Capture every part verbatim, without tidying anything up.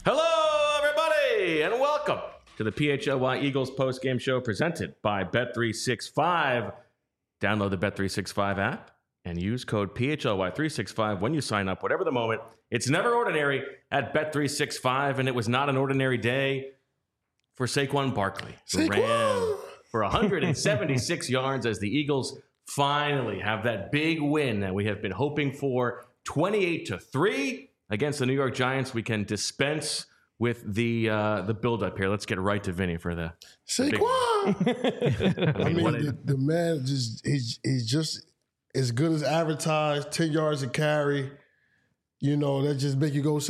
Hello, everybody, and welcome to the P H L Y Eagles post-game show presented by Bet three sixty-five. Download the Bet three sixty-five app and use code P H L Y three sixty-five when you sign up, whatever the moment. It's never ordinary at Bet three sixty-five, and it was not an ordinary day for Saquon Barkley, who Saquon! ran for one hundred seventy-six yards as the Eagles finally have that big win that we have been hoping for, twenty-eight to three against the New York Giants. We can dispense with the uh, the build-up here. Let's get right to Vinny for the Saquon. I I mean, mean, what the, a- the man just he's he's just as good as advertised. Ten yards a carry, you know that just make you go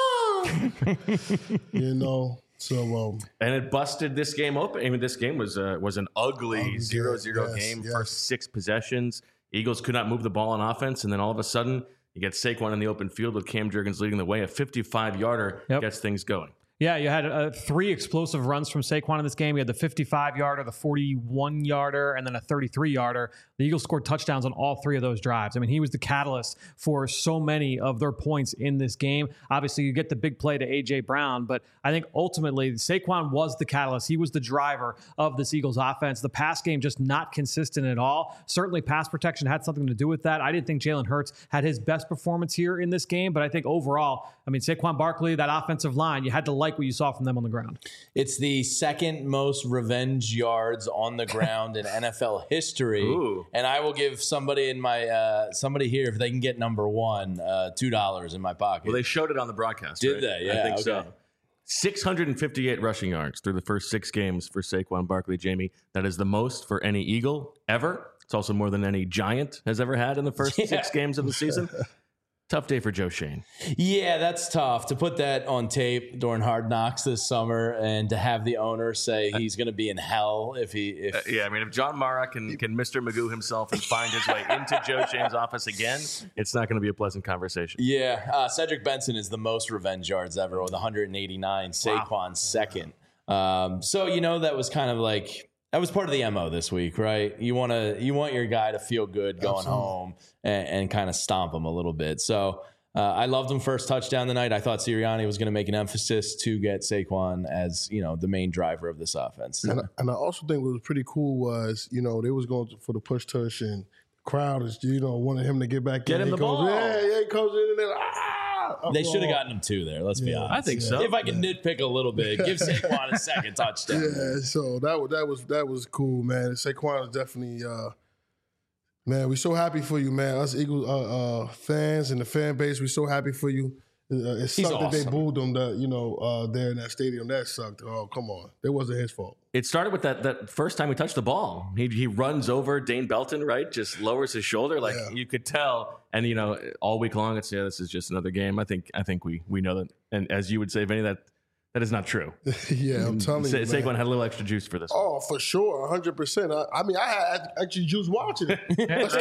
Saquon. you know, so um, and it busted this game open. I mean, this game was uh, was an ugly zero zero yes, game. yes. First six possessions, Eagles could not move the ball on offense, and then all of a sudden, you get Saquon in the open field with Cam Jurgens leading the way. A fifty-five yarder Yep. gets things going. Yeah, you had uh, three explosive runs from Saquon in this game. You had the fifty-five yarder, the forty-one yarder, and then a thirty-three yarder. The Eagles scored touchdowns on all three of those drives. I mean, he was the catalyst for so many of their points in this game. Obviously, you get the big play to A J Brown, but I think ultimately Saquon was the catalyst. He was the driver of this Eagles offense. The pass game just not consistent at all. Certainly, pass protection had something to do with that. I didn't think Jalen Hurts had his best performance here in this game, but I think overall, I mean, Saquon Barkley, that offensive line, you had to like what you saw from them on the ground. It's the second most revenge yards on the ground in N F L history. Ooh. And I will give somebody in my uh, somebody here, if they can get number one, uh, two dollars in my pocket. Well, they showed it on the broadcast. Did right? they? Yeah, I think okay. so. six hundred fifty-eight rushing yards through the first six games for Saquon Barkley, Jamie. That is the most for any Eagle ever. It's also more than any Giant has ever had in the first Yeah. six games of the season. Tough day for Joe Shane. Yeah, that's tough to put that on tape during Hard Knocks this summer, and to have the owner say he's going to be in hell if he. If Uh, yeah, I mean, if John Mara can can Mister Magoo himself and find his way into Joe Shane's office again, it's not going to be a pleasant conversation. Yeah, uh, Cedric Benson is the most revenge yards ever with one hundred eighty-nine. Saquon Wow. second. Um, so you know that was kind of like that was part of the M O this week, right? You want to you want your guy to feel good going Absolutely. home and, and kind of stomp him a little bit. So uh, I loved him first touchdown tonight. I thought Sirianni was going to make an emphasis to get Saquon as you know the main driver of this offense. and, I, and I also think what was pretty cool was you know they was going for the push tush and the crowd is you know wanted him to get back Get in. him He the goes, ball. Yeah, yeah, he comes in and then ah. They should have uproar. gotten him two there. Let's be Yeah. honest. I think so. If I can nitpick a little bit, give Saquon a second touchdown. Yeah, so that was that was that was cool, man. Saquon is definitely, uh, man. We're so happy for you, man. Us Eagles uh, uh, fans and the fan base, we're so happy for you. Uh, it He's sucked that they awesome. booed him, that you know, uh, there in that stadium. That sucked. Oh, come on, it wasn't his fault. It started with that that first time he touched the ball. He he runs over Dane Belton, right? Just lowers his shoulder, like Yeah. you could tell. And you know, all week long, it's yeah, this is just another game. I think I think we we know that. And as you would say, Vinny, that that is not true. yeah, I'm telling Sa- you, man. Saquon had a little extra juice for this. one. Oh, for sure, one hundred percent. I, I mean, I had actually juice watching it. Let's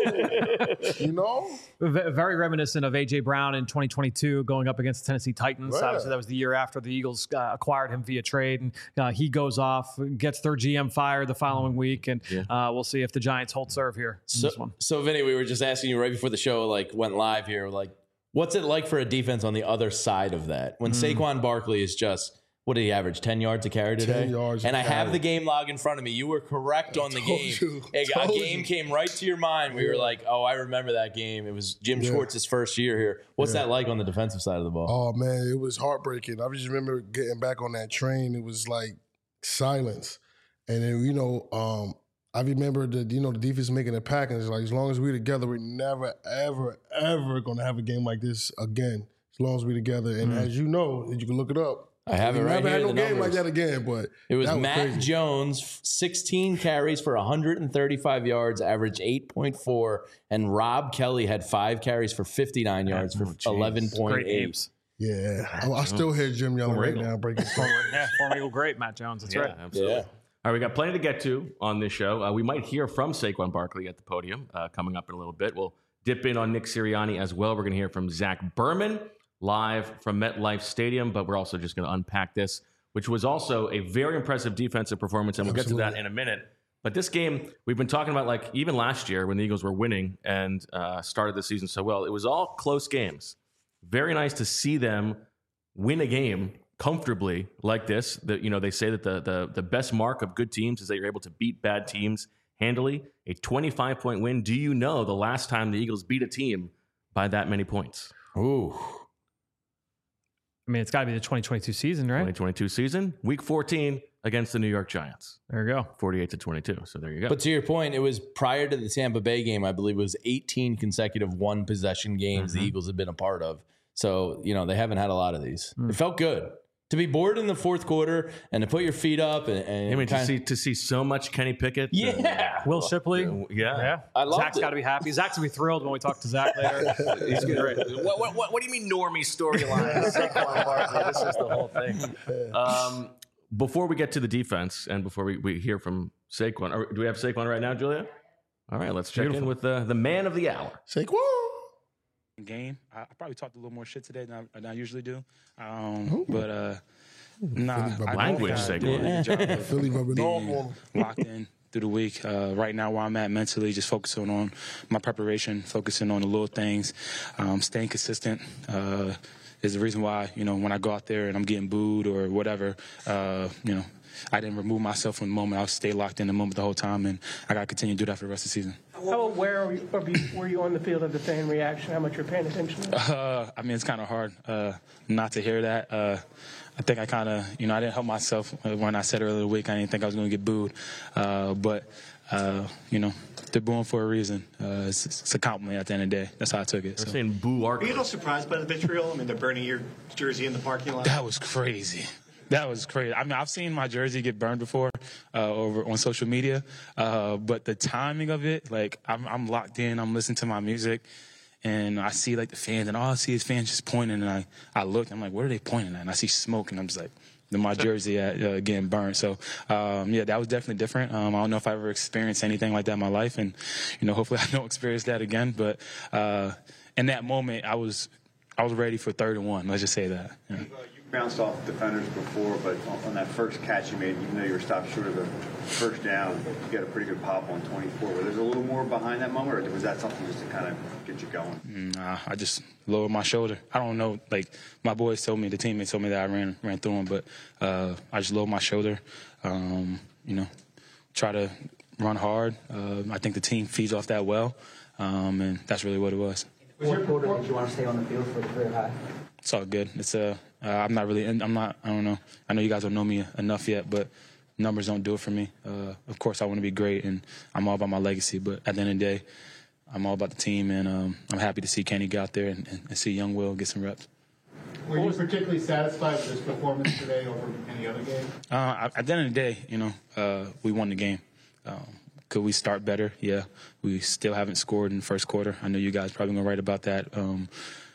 go. You know? V- Very reminiscent of A J Brown in twenty twenty-two going up against the Tennessee Titans. Right. Obviously, that was the year after the Eagles uh, acquired him via trade. And uh, he goes off, gets their G M fired the following week. And Yeah. uh, we'll see if the Giants hold serve here in So, this one. so Vinny, we were just asking you right before the show like went live here, like what's it like for a defense on the other side of that when Mm. Saquon Barkley is just what did he average ten yards a carry today? ten yards a and I have carry. the game log in front of me. You were correct on the told game. you, a, a told game you. came right to your mind. We were Yeah. like, oh, I remember that game. It was Jim Yeah. Schwartz's first year here. What's Yeah. that like on the defensive side of the ball? Oh man, it was heartbreaking. I just remember getting back on that train. It was like silence, and then you know, um, I remember the you know the defense making a pack, and it's like as long as we're together, we're never, ever, ever gonna have a game like this again. As long as we're together, and as you know, you can look it up. I have it we right never here. had no the game like numbers. that again. But It was that Matt crazy. Jones, sixteen carries for one hundred thirty-five yards, average eight point four, and Rob Kelly had five carries for fifty-nine yards for Oh, geez. eleven point Great eight. names. Yeah, I, I still hear Jim yelling right Regal. now, breaking phone. Yeah, former Eagle great, Matt Jones. That's right. absolutely. Yeah. All right, we got plenty to get to on this show. Uh, we might hear from Saquon Barkley at the podium uh, coming up in a little bit. We'll dip in on Nick Sirianni as well. We're going to hear from Zach Berman live from MetLife Stadium, but we're also just going to unpack this, which was also a very impressive defensive performance, and we'll get to that Absolutely. in a minute. But this game, we've been talking about, like, even last year when the Eagles were winning and uh, started the season so well, it was all close games. Very nice to see them win a game comfortably like this. That, you know, they say that the, the the best mark of good teams is that you're able to beat bad teams handily. A twenty-five point win. Do you know the last time the Eagles beat a team by that many points? Ooh. I mean, it's got to be the twenty twenty-two season, right? twenty twenty-two season, week fourteen against the New York Giants. There you go. forty-eight to twenty-two. So there you go. But to your point, it was prior to the Tampa Bay game, I believe it was eighteen consecutive one possession games Mm-hmm. the Eagles have been a part of. So, you know, they haven't had a lot of these. Mm. It felt good to be bored in the fourth quarter and to put your feet up. And, and I mean, to kinda- see to see so much Kenny Pickett. yeah. Will Shipley. Yeah. Yeah. I loved Zach's it. got to be happy. Zach's going to be thrilled when we talk to Zach later. He's great. What, what, what, what do you mean normie storyline? Saquon Barkley. This is the whole thing. Um, before we get to the defense and before we, we hear from Saquon, or do we have Saquon right now, Julia? All right, let's check Beautiful. in with the, the man of the hour. Saquon. Game. I, I probably talked a little more shit today than I, than I usually do. Um, but uh, nah, I Language, I Saquon. did a good job of Philly rubbing off on being him. locked in through the week. Uh, right now, where I'm at mentally, just focusing on my preparation, focusing on the little things, um, staying consistent. Uh, is the reason why, you know, when I go out there and I'm getting booed or whatever, uh, you know, I didn't remove myself from the moment. I'll stay locked in the moment the whole time, and I got to continue to do that for the rest of the season. How aware are you, of you, were you on the field of the fan reaction? How much you're paying attention to that? Uh, I mean, it's kind of hard uh, not to hear that. Uh, I think I kind of, you know, I didn't help myself when I said earlier in the week I didn't think I was going to get booed. Uh, but, uh, you know, they're booing for a reason. Uh, it's, it's a compliment at the end of the day. That's how I took it. They're So. saying boo Were Ark. you a little surprised by the vitriol? I mean, they're burning your jersey in the parking lot. That was crazy. That was crazy. I mean, I've seen my jersey get burned before uh, over on social media, uh, but the timing of it, like, I'm, I'm locked in. I'm listening to my music, and I see, like, the fans, and all I see is fans just pointing, and I, I look, I'm like, what are they pointing at? And I see smoke, and I'm just like, then my jersey at, uh, getting burned. So, um, yeah, that was definitely different. Um, I don't know if I ever experienced anything like that in my life, and, you know, hopefully I don't experience that again. But uh, in that moment, I was I was ready for third and one. Let's just say that. Yeah. Bounced off defenders before, but on, on that first catch you made, even though you were stopped short of the first down, you got a pretty good pop on twenty-four. Was there a little more behind that moment, or was that something just to kind of get you going? Nah, I just lowered my shoulder. I don't know. Like, my boys told me, the teammates told me that I ran ran through them, but uh, I just lowered my shoulder. Um, you know, try to run hard. Uh, I think the team feeds off that well, um, and that's really what it was. What quarter did you want to stay on the field for the career high? It's all good. It's uh, uh, I'm not really. I'm not. I don't know. I know you guys don't know me enough yet, but numbers don't do it for me. Uh, of course, I want to be great, and I'm all about my legacy. But at the end of the day, I'm all about the team, and um, I'm happy to see Kenny get out there and, and, and see young Will get some reps. Were you particularly satisfied with this performance today over any other game? Uh, at the end of the day, you know, uh, we won the game. Um, could we start better? Yeah. We still haven't scored in the first quarter. I know you guys probably going to write about that. Um,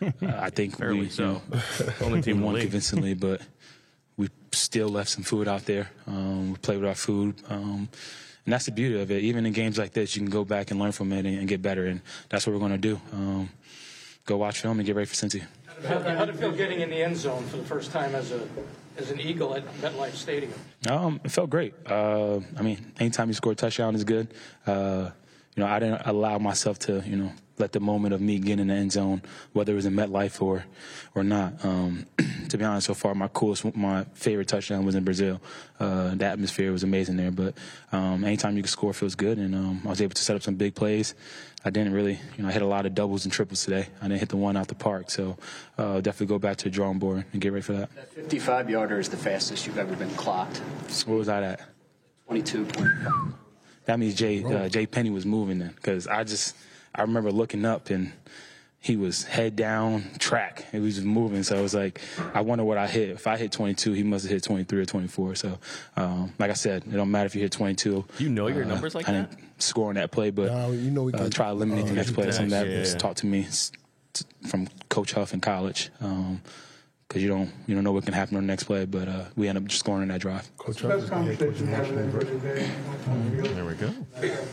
I think we, you so. know, Only team in the won league. convincingly, but we still left some food out there. Um, we played with our food. Um, and that's the beauty of it. Even in games like this, you can go back and learn from it and, and get better. And that's what we're going to do. Um, go watch film and get ready for Cincy. How did it feel getting in the end zone for the first time as a as an Eagle at MetLife Stadium? Um, it felt great. Uh, I mean, anytime you score a touchdown is good. Uh, you know, I didn't allow myself to, you know, let the moment of me getting in the end zone, whether it was in MetLife or or not. Um, to be honest, so far, my coolest, my favorite touchdown was in Brazil. Uh, the atmosphere was amazing there. But um, anytime you can score feels good, and um, I was able to set up some big plays. I didn't really, you know, I hit a lot of doubles and triples today. I didn't hit the one out the park. So uh, definitely go back to the drawing board and get ready for that. That fifty-five yarder is the fastest you've ever been clocked. What was that at? twenty-two point five. That means Jay uh, Jay Penny was moving then, because I just I remember looking up and he was head down track. He was just moving, so I was like, I wonder what I hit. If I hit twenty-two, he must have hit twenty-three or twenty-four. So, um, like I said, it don't matter if you hit twenty-two. You know your uh, numbers like I that? didn't score on that play, but Nah, you know we uh, can- try to eliminate the uh, next play. Something that yeah, was yeah. taught to me s- t- from Coach Huff in college. Um, because you don't you don't know what can happen on the next play, but uh, we end up just scoring on that drive. Coach Huff is the head coach of National University. There we go.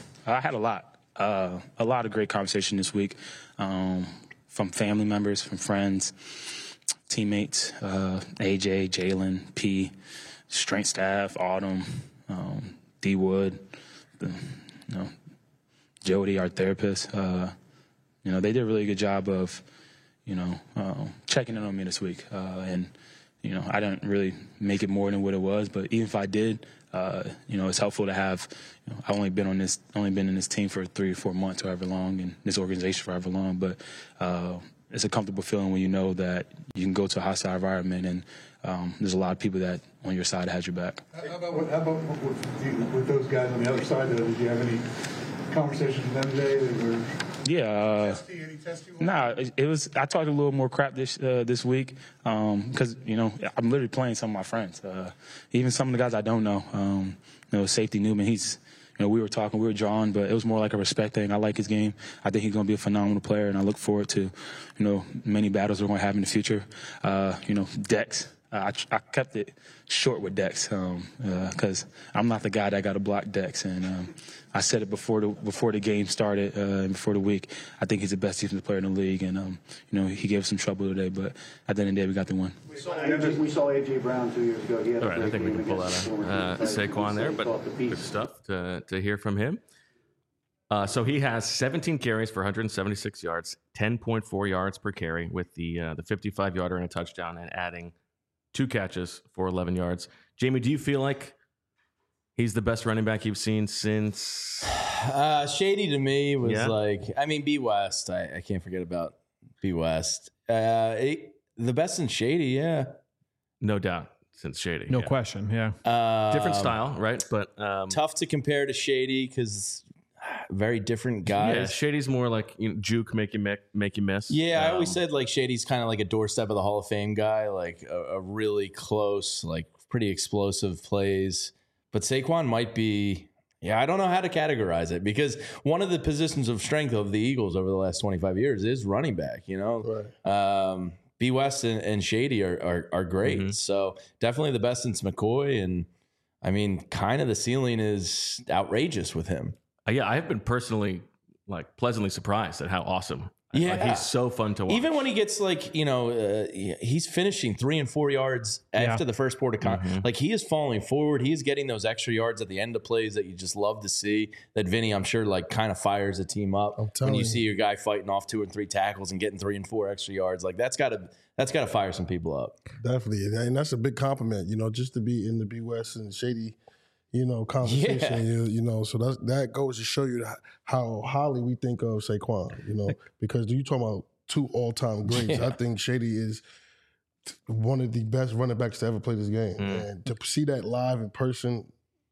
I had a lot, uh, a lot of great conversation this week, um, from family members, from friends, teammates, uh, A J, Jalen, P, strength staff, Autumn, um, D Wood, the, you know, Jody, our therapist. Uh, you know, they did a really good job of, you know, uh, checking in on me this week, uh, and you know, I didn't really make it more than what it was. But even if I did, uh, you know, it's helpful to have. You know, I've only been on this, only been in this team for three or four months, however long, and this organization for however long. But uh, it's a comfortable feeling when you know that you can go to a hostile environment and um, there's a lot of people that on your side has your back. How about, what, how about with, you, with those guys on the other side? Though, did you have any conversations with them today that were? Yeah, uh, testy, any testy nah. It, it was. I talked a little more crap this uh, this week because um, you know I'm literally playing some of my friends, uh, even some of the guys I don't know. Um, you know, safety Newman. He's. You know, we were talking, we were drawing, but it was more like a respect thing. I like his game. I think he's going to be a phenomenal player, and I look forward to, you know, many battles we're going to have in the future. Uh, you know, Dex. Uh, I, I kept it short with Dex because um, uh, I'm not the guy that got to block Dex, and um, I said it before the before the game started uh, and before the week. I think he's the best defensive player in the league, and um, you know he gave us some trouble today, but at the end of the day, we got the win. We saw A J, we saw A J Brown two years ago. He had All right, I think we can pull out uh, Saquon there, but good stuff to to hear from him. Uh, so he has seventeen carries for one hundred seventy-six yards, ten point four yards per carry with the uh, the fifty-five yarder and a touchdown, and adding two catches for eleven yards. Jamie, do you feel like he's the best running back you've seen since? Uh, Shady to me was Yeah. like, I mean, B West. I, I can't forget about B West. Uh, it, the best in Shady, yeah. No doubt, since Shady. No yeah. question. Yeah. Um, Different style, right? But um, Tough to compare to Shady because very different guys. yeah, Shady's more like you know, juke, make you make, make you miss. Yeah, I always Um, said like Shady's kind of like a doorstep of the Hall of Fame guy, like a, a really close, like pretty explosive plays. But Saquon might be, yeah, I don't know how to categorize it because one of the positions of strength of the Eagles over the last twenty-five years is running back, you know? Right. Um, B West and, and Shady are, are, are great. Mm-hmm. So definitely the best since McCoy. And I mean, kind of the ceiling is outrageous with him. Uh, yeah, I've been personally like pleasantly surprised at how awesome. Yeah. Like, he's so fun to watch. Even when he gets like, you know, uh, he's finishing three and four yards after Yeah. the first port of con- Mm-hmm. like he is falling forward. He is getting those extra yards at the end of plays that you just love to see. That Vinny, I'm sure, like kind of fires a team up I'm when telling you you. see your guy fighting off two and three tackles and getting three and four extra yards. Like that's got to that's got to fire some people up. Definitely, and- and that's a big compliment. You know, just to be in the B West and Shady, you know, conversation. Yeah. You, you know, so that's, that goes to show you how highly we think of Saquon. You know, because you talking about two all time greats. Yeah. I think Shady is one of the best running backs to ever play this game, Mm. and to see that live in person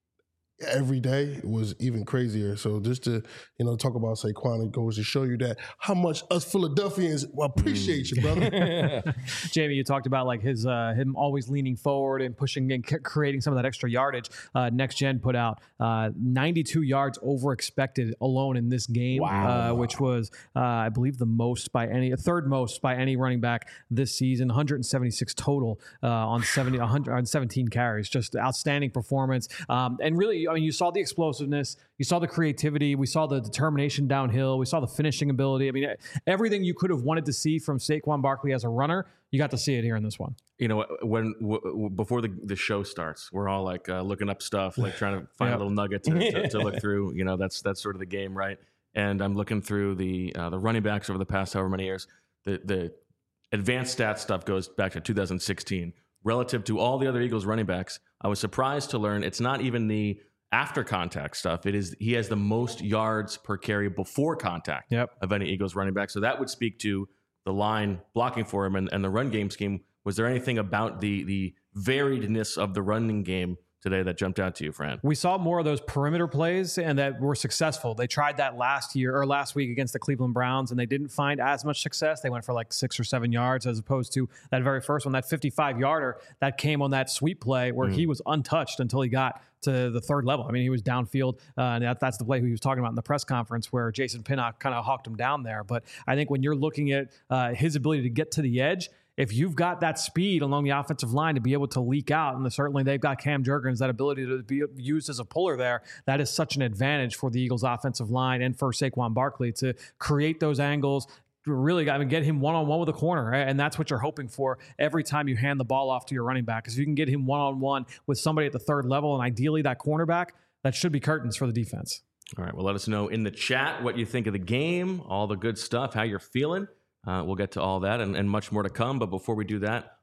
every day was even crazier. So just to, you know, talk about Saquon, it goes to show you that how much us Philadelphians appreciate you, brother. Jamie, you talked about like his uh, him always leaning forward and pushing and c- creating some of that extra yardage. Uh, Next Gen put out uh, ninety-two yards over expected alone in this game, Wow. uh, which was uh, I believe the most by any third most by any running back this season. one hundred seventy-six total uh, on seventy one hundred on seventeen carries. Just outstanding performance. Um, and really, I mean, you saw the explosiveness, you saw the creativity, we saw the determination downhill, we saw the finishing ability. I mean, everything you could have wanted to see from Saquon Barkley as a runner, you got to see it here in this one. You know, when w- w- before the, the show starts, we're all like uh, looking up stuff, like trying to find Yep. a little nugget to, to, to look through. You know, that's that's sort of the game, right? And I'm looking through the uh, the running backs over the past however many years. The the advanced stats stuff goes back to two thousand sixteen. Relative to all the other Eagles running backs, I was surprised to learn it's not even the after contact stuff. It is he has the most yards per carry before contact Yep. of any Eagles running back. So that would speak to the line blocking for him and, and the run game scheme. Was there anything about the the variedness of the running game today that jumped out to you, Fran? We saw more of those perimeter plays and that were successful. They tried that last year or last week against the Cleveland Browns and they didn't find as much success. They went for like six or seven yards as opposed to that very first one, that fifty-five yarder that came on that sweep play where he was untouched until he got to the third level. I mean, he was downfield, uh, and that, that's the play he was talking about in the press conference where Jason Pinnock kind of hawked him down there. But I think when you're looking at uh, his ability to get to the edge, if you've got that speed along the offensive line to be able to leak out, and certainly they've got Cam Jurgens, that ability to be used as a puller there, that is such an advantage for the Eagles offensive line and for Saquon Barkley to create those angles, really I mean, get him one-on-one with a corner, right? And that's what you're hoping for every time you hand the ball off to your running back. Because if you can get him one-on-one with somebody at the third level and ideally that cornerback, that should be curtains for the defense. All right. Well, let us know in the chat what you think of the game, all the good stuff, how you're feeling. Uh, we'll get to all that and, and much more to come. But before we do that,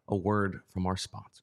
a word from our sponsors.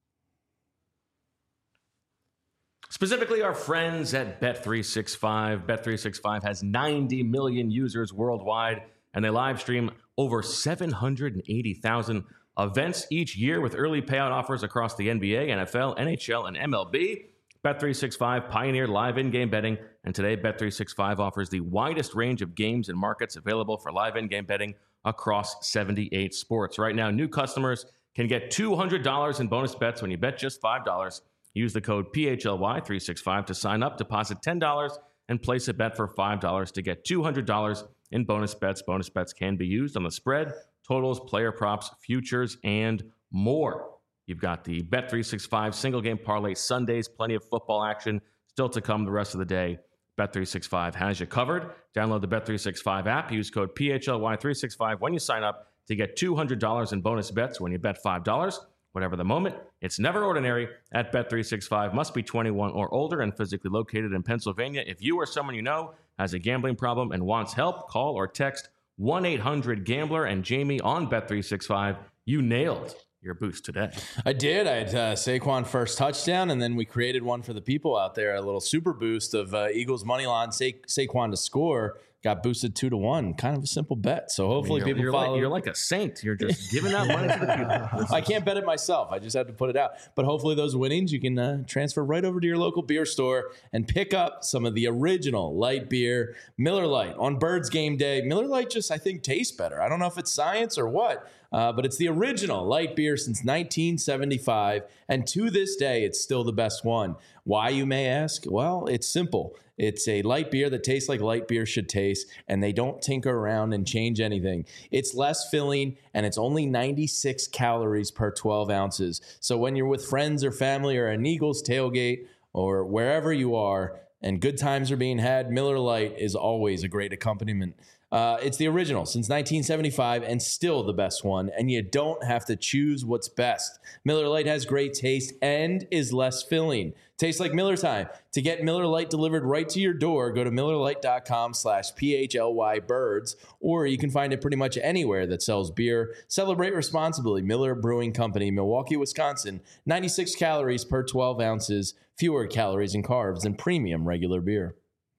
Specifically, our friends at Bet three sixty-five. Bet three sixty-five has ninety million users worldwide, and they live stream over seven hundred eighty thousand events each year with early payout offers across the N B A, N F L, N H L, and M L B. Bet three sixty-five pioneered live in-game betting, and today Bet three sixty-five offers the widest range of games and markets available for live in-game betting across seventy-eight sports. Right now, new customers can get two hundred dollars in bonus bets when you bet just five dollars. Use the code P H L Y three sixty-five to sign up, deposit ten dollars, and place a bet for five dollars to get two hundred dollars in bonus bets. Bonus bets can be used on the spread, totals, player props, futures, and more. You've got the Bet three sixty-five single game parlay Sundays, plenty of football action still to come the rest of the day. Bet three sixty-five has you covered. Download the Bet three sixty-five app. Use code P H L Y three sixty-five when you sign up to get two hundred dollars in bonus bets when you bet five dollars. Whatever the moment, it's never ordinary at Bet three sixty-five. Must be twenty-one or older and physically located in Pennsylvania. If you or someone you know has a gambling problem and wants help, call or text one eight hundred gambler and Jamie on Bet three sixty-five. You nailed your boost today. I did. I had uh, Saquon first touchdown, and then we created one for the people out there, a little super boost of uh, Eagles money line, Sa- Saquon to score. Got boosted two to one. Kind of a simple bet. So hopefully I mean, you're, people you're follow. Like, you're like a saint. You're just giving out money to the people. I can't bet it myself. I just have to put it out. But hopefully those winnings you can uh, transfer right over to your local beer store and pick up some of the original light beer, Miller Lite. On Birds game day, Miller Lite just, I think, tastes better. I don't know if it's science or what, uh, but it's the original light beer since nineteen seventy-five. And to this day, it's still the best one. Why, you may ask? Well, it's simple. It's a light beer that tastes like light beer should taste, and they don't tinker around and change anything. It's less filling, and it's only ninety-six calories per twelve ounces. So when you're with friends or family or an Eagles tailgate or wherever you are, and good times are being had, Miller Lite is always a great accompaniment. Uh, it's the original since nineteen seventy-five and still the best one, and you don't have to choose what's best. Miller Lite has great taste and is less filling. Tastes like Miller time. To get Miller Lite delivered right to your door, go to millerlite.com slash PHLY birds, or you can find it pretty much anywhere that sells beer. Celebrate responsibly. Miller Brewing Company, Milwaukee, Wisconsin. ninety-six calories per twelve ounces, fewer calories and carbs than premium regular beer.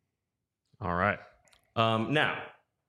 All right. Um, now,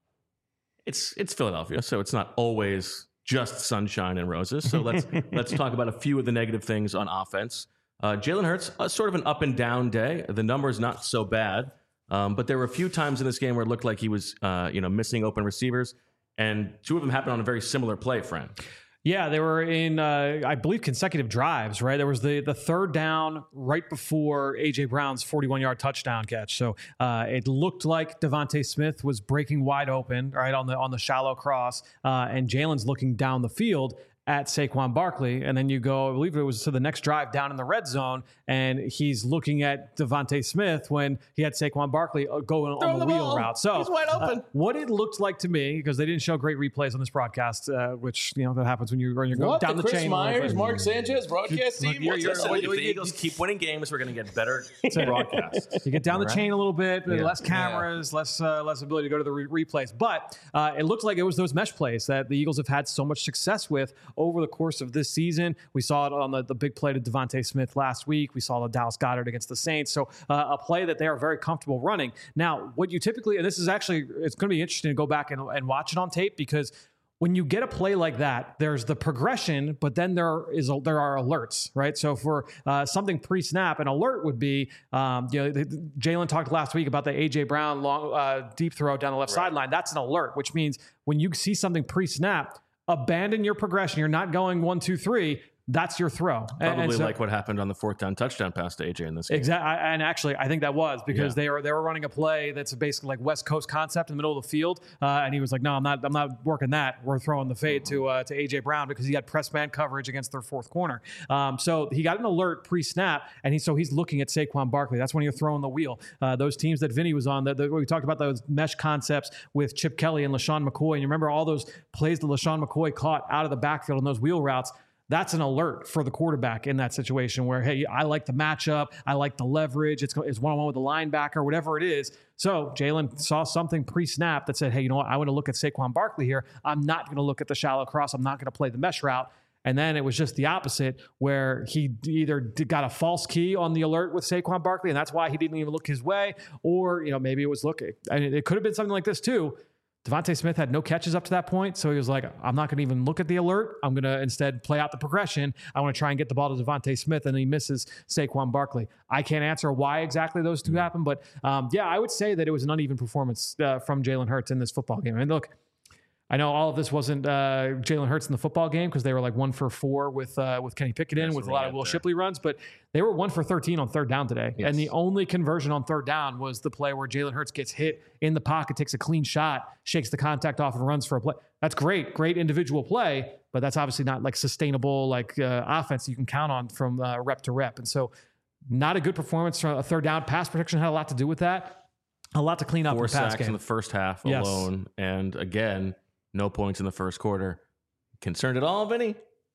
it's it's Philadelphia, so it's not always just sunshine and roses. So let's let's talk about a few of the negative things on offense. Uh, Jalen Hurts, uh, sort of an up and down day. The number's not so bad, um, but there were a few times in this game where it looked like he was, uh, you know, missing open receivers, and two of them happened on a very similar play, friend. Yeah, they were in, uh, I believe, consecutive drives, right? There was the the third down right before A J Brown's forty-one-yard touchdown catch. So uh, it looked like Devontae Smith was breaking wide open, right, on the on the shallow cross, uh, and Jalen's looking down the field at Saquon Barkley, and then you go, I believe it was to the next drive down in the red zone, and he's looking at Devontae Smith when he had Saquon Barkley going on the, the wheel ball. route. So he's wide open. Uh, what it looked like to me, because they didn't show great replays on this broadcast, uh, which you know that happens when you when you're going what, down the, the chain. Chris Myers, Mark Sanchez broadcast team. You're, you're, you're, if the Eagles keep winning games, we're going to get better broadcasts. You get down All the right. chain a little bit, Yeah. less cameras, yeah. less uh, less ability to go to the re- replays. But uh, it looked like it was those mesh plays that the Eagles have had so much success with over the course of this season. We saw it on the, the big play to Devontae Smith last week. We saw the Dallas Goedert against the Saints. So uh, a play that they are very comfortable running. Now, what you typically, and this is actually, it's going to be interesting to go back and, and watch it on tape, because when you get a play like that, there's the progression, but then there is a, there are alerts, right? So for uh, something pre-snap, an alert would be, um, you know, Jalen talked last week about the A J Brown long uh, deep throw down the left right. sideline. That's an alert, which means when you see something pre-snap, abandon your progression. You're not going one, two, three. That's your throw. Probably and so, like what happened on the fourth down touchdown pass to A J in this game. Exactly. And actually, I think that was because Yeah. they were they were running a play that's basically like West Coast concept in the middle of the field. Uh, and he was like, no, I'm not I'm not working that. We're throwing the fade to uh, to A J Brown because he had press man coverage against their fourth corner. Um, so he got an alert pre-snap, and he so he's looking at Saquon Barkley. That's when you're throwing the wheel. Uh, those teams that Vinny was on, the, the, we talked about those mesh concepts with Chip Kelly and LaShawn McCoy. And you remember all those plays that LaShawn McCoy caught out of the backfield on those wheel routes. That's an alert for the quarterback in that situation where, hey, I like the matchup. I like the leverage. It's, it's one-on-one with the linebacker, whatever it is. So Jalen saw something pre-snap that said, hey, you know what? I want to look at Saquon Barkley here. I'm not going to look at the shallow cross. I'm not going to play the mesh route. And then it was just the opposite, where he either got a false key on the alert with Saquon Barkley, and that's why he didn't even look his way, or you know maybe it was looking. I mean, it could have been something like this too. Devontae Smith had no catches up to that point, so he was like, I'm not going to even look at the alert. I'm going to instead play out the progression. I want to try and get the ball to Devontae Smith, and he misses Saquon Barkley. I can't answer why exactly those two happened, but um, yeah, I would say that it was an uneven performance uh, from Jalen Hurts in this football game. I mean, look, I know all of this wasn't uh, Jalen Hurts in the football game because they were like one for four with uh, with Kenny Pickett in That's with a right lot of Will there. Shipley runs, but they were one for thirteen on third down today. Yes. And the only conversion on third down was the play where Jalen Hurts gets hit in the pocket, takes a clean shot, shakes the contact off and runs for a play. That's great, great individual play, but that's obviously not like sustainable like uh, offense you can count on from uh, rep to rep. And so not a good performance from a third down. Pass protection had a lot to do with that. A lot to clean up Four in the pass sacks game. in the first half Yes. alone. And again, no points in the first quarter. Concerned at all, Vinny?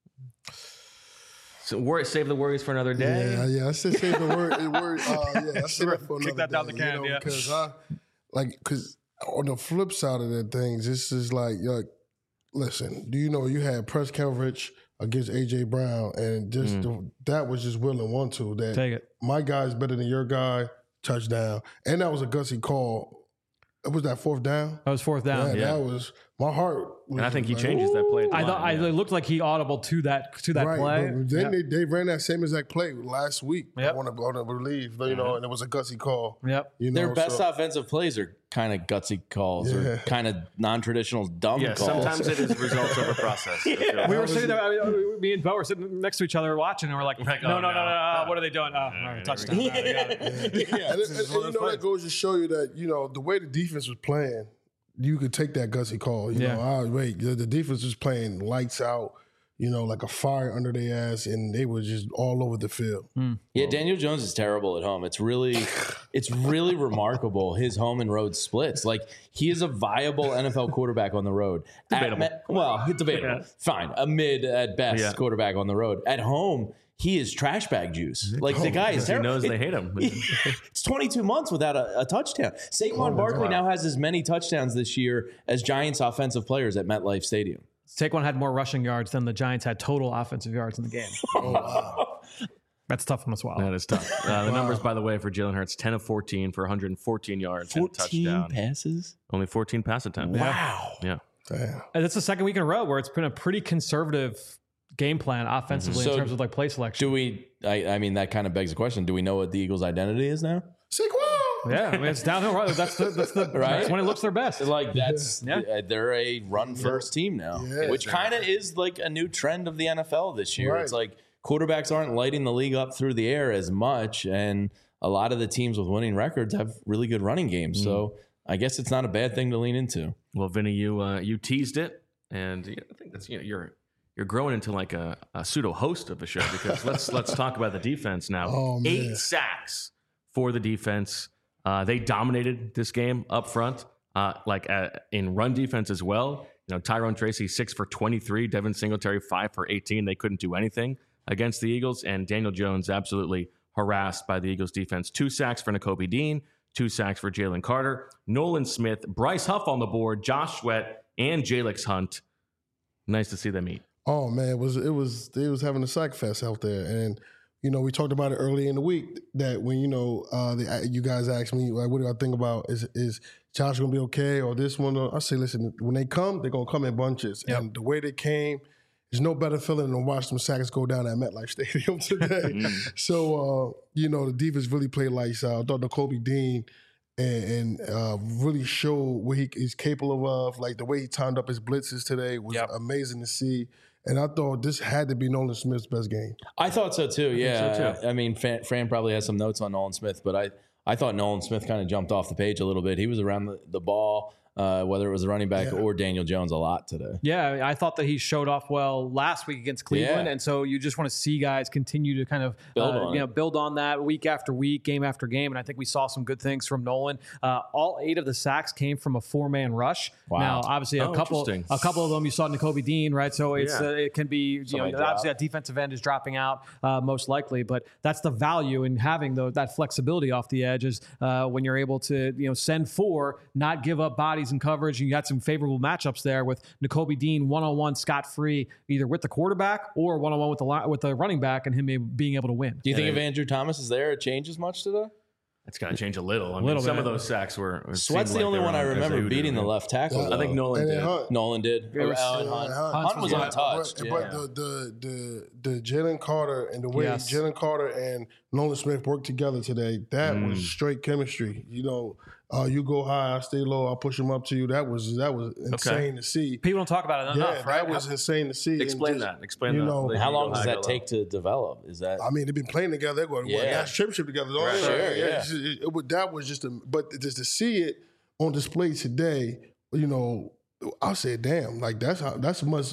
So worry, save the worries for another day. Yeah, yeah. I said save the word. the word uh, yeah, I said that for Kick another that down day, the can, you know, yeah. Because I, like, because on the flip side of that things, this is like, you're like, listen, do you know you had press coverage against A J Brown, and just Mm. the, that was just will and want to. That Take it. my guy's better than your guy. Touchdown, and that was a gutsy call. It was that fourth down. That was fourth down. Yeah, Yeah. that was my heart. Was And I think he like, changes that play. at the I thought line, I, yeah. it looked like he audible to that to that right, play. but then Yeah. they, they ran that same exact play last week. Yep. I want to, I want to believe, you know, and it was a gutsy call. Yep. You know, Their best so- offensive plays are kind of gutsy calls Yeah. or kind of non-traditional dumb Yeah, calls. sometimes it is results over process. We were was sitting there. I mean, me and Bo were sitting next to each other watching, and we're like, Like, no, oh, no, no, no, no. no, uh, What are they doing? Oh, all right, touchdown. All right, we got it. Yeah, and, and- and you know that goes to show you that you know the way the defense was playing, you could take that gutsy call. You Yeah. know, oh, wait, the, the defense was playing lights out. You know, like a fire under their ass, and they were just all over the field. Yeah, Daniel Jones is terrible at home. It's really, it's really remarkable his home and road splits. Like he is a viable N F L quarterback on the road. At Debatable. me- well, it's debatable. Yeah. Fine, a mid at best Yeah. quarterback on the road. At home, he is trash bag juice. Like the guy is He terrible. knows they hate him. It's twenty-two months without a, a touchdown. Saquon Barkley now has as many touchdowns this year as Giants offensive players at MetLife Stadium. Saquon had more rushing yards than the Giants had total offensive yards in the game. Oh wow! That's tough on the swallow. That is tough. Uh, the numbers, by the way, for Jalen Hurts: ten of fourteen for one hundred fourteen yards and a touchdown. passes. Only fourteen pass attempts. Wow. Yeah. Damn. And it's the second week in a row where it's been a pretty conservative game plan offensively So in terms of like play selection. Do we? I, I mean, that kind of begs the question. Do we know what the Eagles' identity is now? Saquon. Yeah, I mean it's downhill. Right? That's the that's the Right? that's when it looks their best. Like that's Yeah. uh, they're a run first team now, Yeah. which kind of is like a new trend of the N F L this year. Right. It's like quarterbacks aren't lighting the league up through the air as much, and a lot of the teams with winning records have really good running games. So I guess it's not a bad thing to lean into. Well, Vinny, you uh, you teased it, and I think that's you know you're you're growing into like a, a pseudo host of the show because let's let's talk about the defense now. Oh, man. Eight sacks for the defense. Uh, they dominated this game up front, uh, like uh, in run defense as well. You know, Tyrone Tracy six for twenty-three, Devin Singletary five for eighteen. They couldn't do anything against the Eagles, and Daniel Jones absolutely harassed by the Eagles defense. Two sacks for Nakobe Dean, two sacks for Jalen Carter, Nolan Smith, Bryce Huff on the board, Josh Sweat, and Jalix Hunt. Nice to see them eat. Oh man, it was it was they was having a sack fest out there, and you know we talked about it early in the week that when you know uh, the, you guys asked me like, what do I think about is is Josh gonna be okay or this one? I say, listen, when they come, they're gonna come in bunches, Yep. and the way they came, there's no better feeling than watch them sacks go down at MetLife Stadium today. So uh, you know the defense really played lights out. I thought Nakobe Dean. And, and uh, really show what he is capable of. Like the way he timed up his blitzes today was Yep. amazing to see. And I thought this had to be Nolan Smith's best game. I thought so too. Yeah, so, too. I mean, Fran, Fran probably has some notes on Nolan Smith, but I, I thought Nolan Smith kind of jumped off the page a little bit. He was around the, the ball, uh, whether it was a running back Yeah. or Daniel Jones, a lot today. Yeah, I, mean, I thought that he showed off well last week against Cleveland, Yeah. and so you just want to see guys continue to kind of Build uh, on you it. know build on that week after week, game after game, and I think we saw some good things from Nolan. Uh, all eight of the sacks came from a four man rush. Wow. Now, obviously, a Oh, couple interesting. a couple of them you saw Nakobe Dean, right? So it's Yeah. uh, it can be you know Somebody obviously drop. that defensive end is dropping out uh, most likely, but that's the value in having the, that flexibility off the edge is uh, when you're able to you know send four, not give up bodies bodies in coverage, and you got some favorable matchups there with Nakobe Dean one-on-one scot-free, either with the quarterback or one-on-one with the with the running back, and him being able to win. Do you think if Andrew Thomas is there, it changes much today? It's going to change a little. I mean, little some bit. of those sacks were. Sweat's the like only one I remember beating the left tackle. I think Nolan did. Hunt. Nolan did. Yeah, Or yeah, Alan Hunt. Hunt. Hunt Hunt was yeah. untouched. But, yeah. but the the the the Jalen Carter and the way Yes. Jalen Carter and Nolan Smith worked together today, that Mm. was straight chemistry. You know, uh, you go high, I stay low, I'll push them up to you. That was that was insane to see. People don't talk about it enough, yeah, right? that was insane to see. Explain And just, that. Explain you that. know, The How Eagle long does high, that go take low. to develop? Is that I mean, they've been playing together. They're going, Yeah. what, that's championship together. Don't Right. they? Sure, yeah. yeah. It's just- It, it, that was just a, but just to see it on display today, you know, I said, damn, like that's how, that's much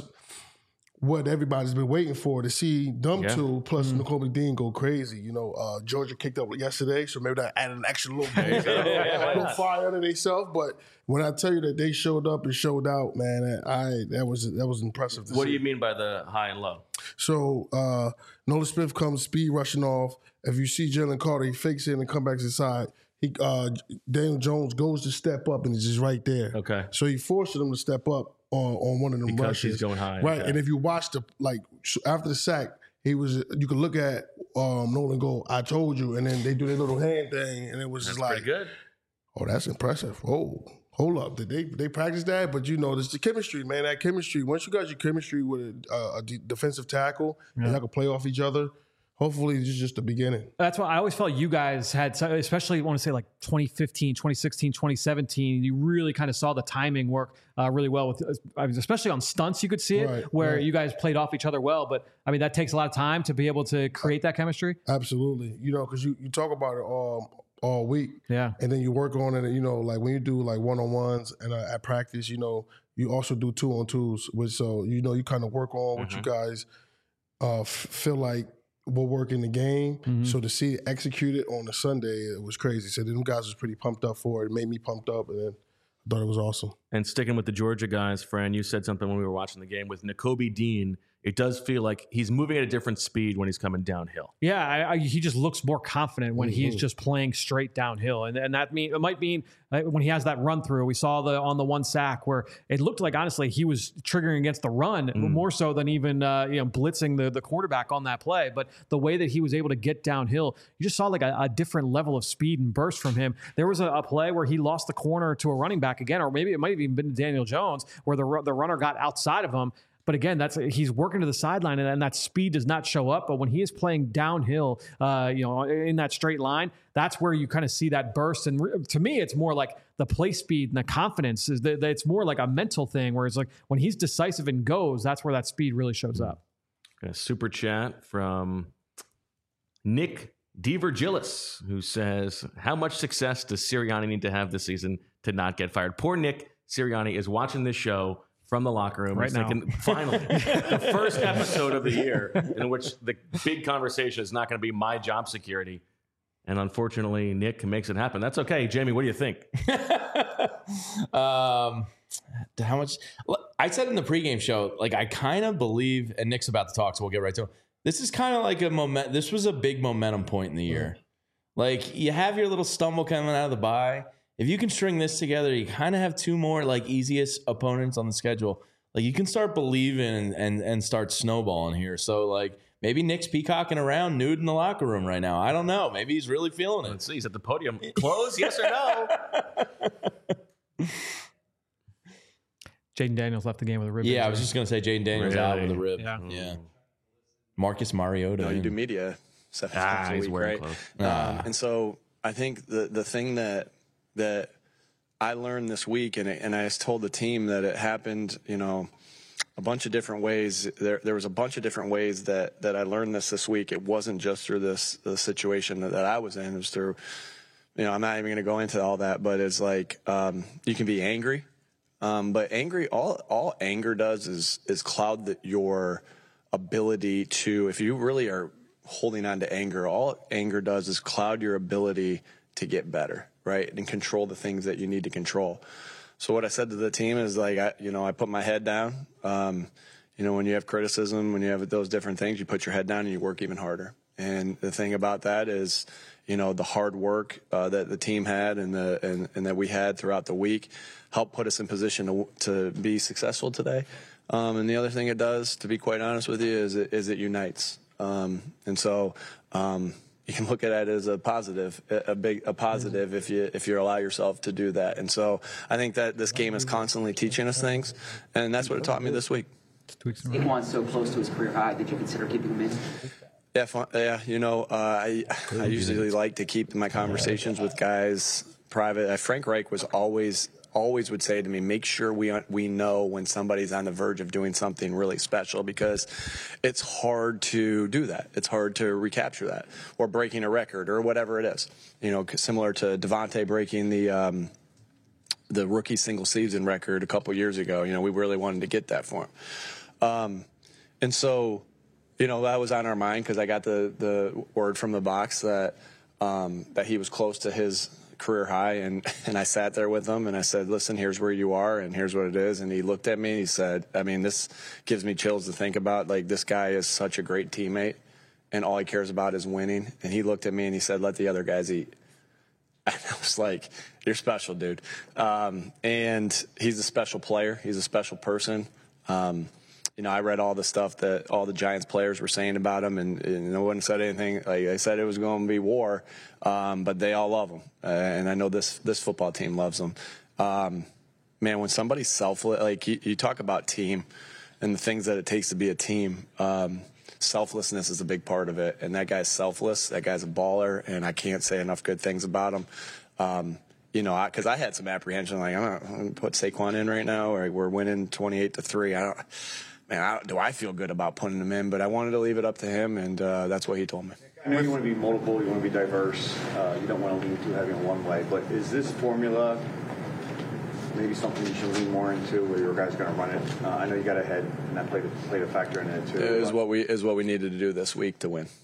what everybody's been waiting for, to see them Yeah. two plus Nakobe Dean go crazy. You know, uh, Georgia kicked up yesterday, so maybe that added an extra little bit, a little fire under themselves. But when I tell you that they showed up and showed out, man, I that was that was impressive. To What see. do you mean by the high and low? So uh, Nolan Smith comes speed rushing off. If you see Jalen Carter, he fakes it and come back to the side. He uh, Daniel Jones goes to step up and it's just right there. Okay. So he forced him to step up on, on one of them Because rushes. he's going high, Right. okay. And if you watch the like after the sack, he was you could look at um, Nolan go, I told you, and then they do their little hand thing, and it was That's just like, pretty good. oh, that's impressive. Oh, hold up. Did they they practice that? But you know, there's the chemistry, man. That chemistry. Once you got your chemistry with a, uh, a de- defensive tackle, and y'all can play off each other, hopefully this is just the beginning. That's why I always felt you guys had, especially I want to say like twenty fifteen, twenty sixteen, twenty seventeen, you really kind of saw the timing work uh, really well with, I mean, especially on stunts, you could see it Right, where right. you guys played off each other well. But I mean, that takes a lot of time to be able to create that chemistry. Absolutely. You know, because you, you talk about it all, all week. Yeah. And then you work on it, you know, like when you do like one-on-ones and uh, at practice, you know, you also do two-on-twos, which so, you know, you kind of work on what you guys uh, f- feel like will work in the game. Mm-hmm. So to see it executed on a Sunday, it was crazy. So them guys was pretty pumped up for it. It made me pumped up, and then I thought it was awesome. And sticking with the Georgia guys, Fran, you said something when we were watching the game with Nakobe Dean. It does feel like he's moving at a different speed when he's coming downhill. Yeah, I, I, he just looks more confident when he's Mhm. just playing straight downhill, and and that mean it might mean uh, when he has that run through. We saw the on the one sack where it looked like honestly he was triggering against the run more so than even uh, you know blitzing the the quarterback on that play. But the way that he was able to get downhill, you just saw like a, a different level of speed and burst from him. There was a, a play where he lost the corner to a running back again, or maybe it might have even been Daniel Jones, where the ru- the runner got outside of him. But again, that's he's working to the sideline, and, and that speed does not show up. But when he is playing downhill, uh, you know, in that straight line, that's where you kind of see that burst. And re- to me, it's more like the play speed and the confidence. Is that that it's more like a mental thing, where it's like when he's decisive and goes, that's where that speed really shows up. A super chat from Nick DiVirgilis, who says, how much success does Sirianni need to have this season to not get fired? Poor Nick Sirianni is watching this show from the locker room. Right He's now. thinking, finally, the first episode of the year in which the big conversation is not going to be my job security. And unfortunately, Nick makes it happen. That's okay. Jamie, what do you think? um, how much? I said in the pregame show, like I kind of believe, and Nick's about to talk, so we'll get right to him. This is kind of like a moment. This was a big momentum point in the year. Like you have your little stumble coming out of the bye. If you can string this together, you kind of have two more like easiest opponents on the schedule. Like you can start believing and, and and start snowballing here. So like maybe Nick's peacocking around nude in the locker room right now. I don't know. Maybe he's really feeling it. Let's see. He's at the podium. Close, yes or no? Jaden Daniels left the game with a rib Yeah, injury. I was just gonna say Jaden Daniels out with a rib. Yeah. yeah. Marcus Mariota. No, you do media seven Ah, times a he's week, wearing right? clothes. Ah. Um, and so I think the the thing that that I learned this week, and it, and I just told the team that it happened, you know, a bunch of different ways. There there was a bunch of different ways that that I learned this this week. It wasn't just through this the situation that, that I was in. It was through, you know, I'm not even going to go into all that, but it's like um, you can be angry. Um, but angry, all all anger does is is cloud the, your ability to, if you really are holding on to anger, all anger does is cloud your ability to get better, right, and control the things that you need to control. So what I said to the team is like, I, you know, I put my head down. Um, you know, when you have criticism, when you have those different things, you put your head down and you work even harder. And the thing about that is, you know, the hard work uh, that the team had and the and, and that we had throughout the week helped put us in position to to be successful today. Um, and the other thing it does, to be quite honest with you, is it, is it unites. Um, and so um, you can look at it as a positive, a big a positive if you if you allow yourself to do that. And so I think that this game is constantly teaching us things, and that's what it taught me this week. Saquon's so close to his career high. Did you consider keeping him in? Yeah, fun, yeah. You know, uh, I I usually like to keep my conversations with guys private. Uh, Frank Reich was always always would say to me, make sure we we know when somebody's on the verge of doing something really special, because it's hard to do that. It's hard to recapture that, or breaking a record, or whatever it is. You know, similar to Devontae breaking the um, the rookie single season record a couple years ago. You know, we really wanted to get that for him, um, and so. You know, that was on our mind because I got the, the word from the box that um, that he was close to his career high, and, and I sat there with him and I said, listen, here's where you are and here's what it is. And he looked at me and he said, I mean, this gives me chills to think about. Like, this guy is such a great teammate and all he cares about is winning. And he looked at me and he said, let the other guys eat. And I was like, you're special, dude. Um, and he's a special player. He's a special person. Um, You know, I read all the stuff that all the Giants players were saying about him, and, and no one said anything. Like they said, it was going to be war, um, but they all love him, uh, and I know this this football team loves him. Um, man, when somebody's selfless, like you, you talk about team and the things that it takes to be a team. Um, selflessness is a big part of it, and that guy's selfless. That guy's a baller, and I can't say enough good things about him. Um, You know, because I, I had some apprehension, like I'm going to put Saquon in right now, or we're winning twenty-eight to three. I don't. Man, I, do I feel good about putting him in? But I wanted to leave it up to him, and uh, that's what he told me. I know you want to be multiple, you want to be diverse, uh, you don't want to lean too heavy on one way, but is this formula maybe something you should lean more into, where your guys going to run it? Uh, I know you got ahead, and that played a, played a factor in it too. It is what we is what we needed to do this week to win.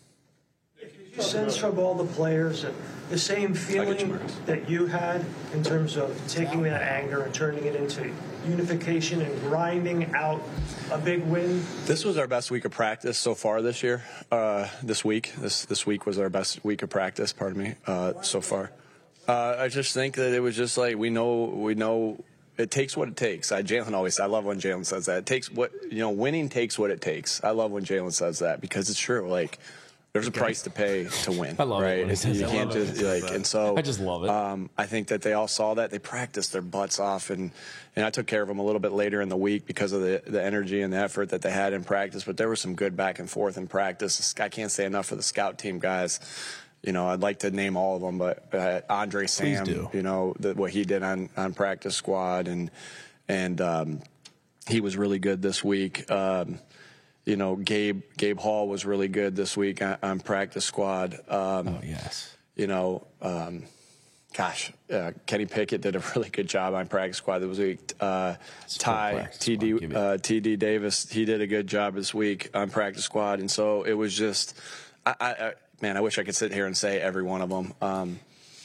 You sense from all the players that the same feeling that you had in terms of taking that anger and turning it into unification and grinding out a big win? This was our best week of practice so far this year. Uh, this week, this this week was our best week of practice. Pardon me. Uh, so far, uh, I just think that it was just like we know we know. It takes what it takes. I, Jalen always. I love when Jalen says that. It takes what you know. Winning takes what it takes. I love when Jalen says that because it's true. Like. There's a price to pay to win. I love right? it when he says you that. can't just like, and so I just love it. Um, I think that they all saw that. They practiced their butts off, and and I took care of them a little bit later in the week because of the the energy and the effort that they had in practice. But there was some good back and forth in practice. I can't say enough for the scout team guys. You know, I'd like to name all of them, but uh, Andre Sam, you know, the, what he did on on practice squad, and and um, he was really good this week. Um, You know, Gabe Gabe Hall was really good this week on, on practice squad. Um, oh yes. You know, um, gosh, uh, Kenny Pickett did a really good job on practice squad this week. Uh, Ty T D uh, T D Davis, he did a good job this week on practice squad, and so it was just, I, I, I man, I wish I could sit here and say every one of them. Um,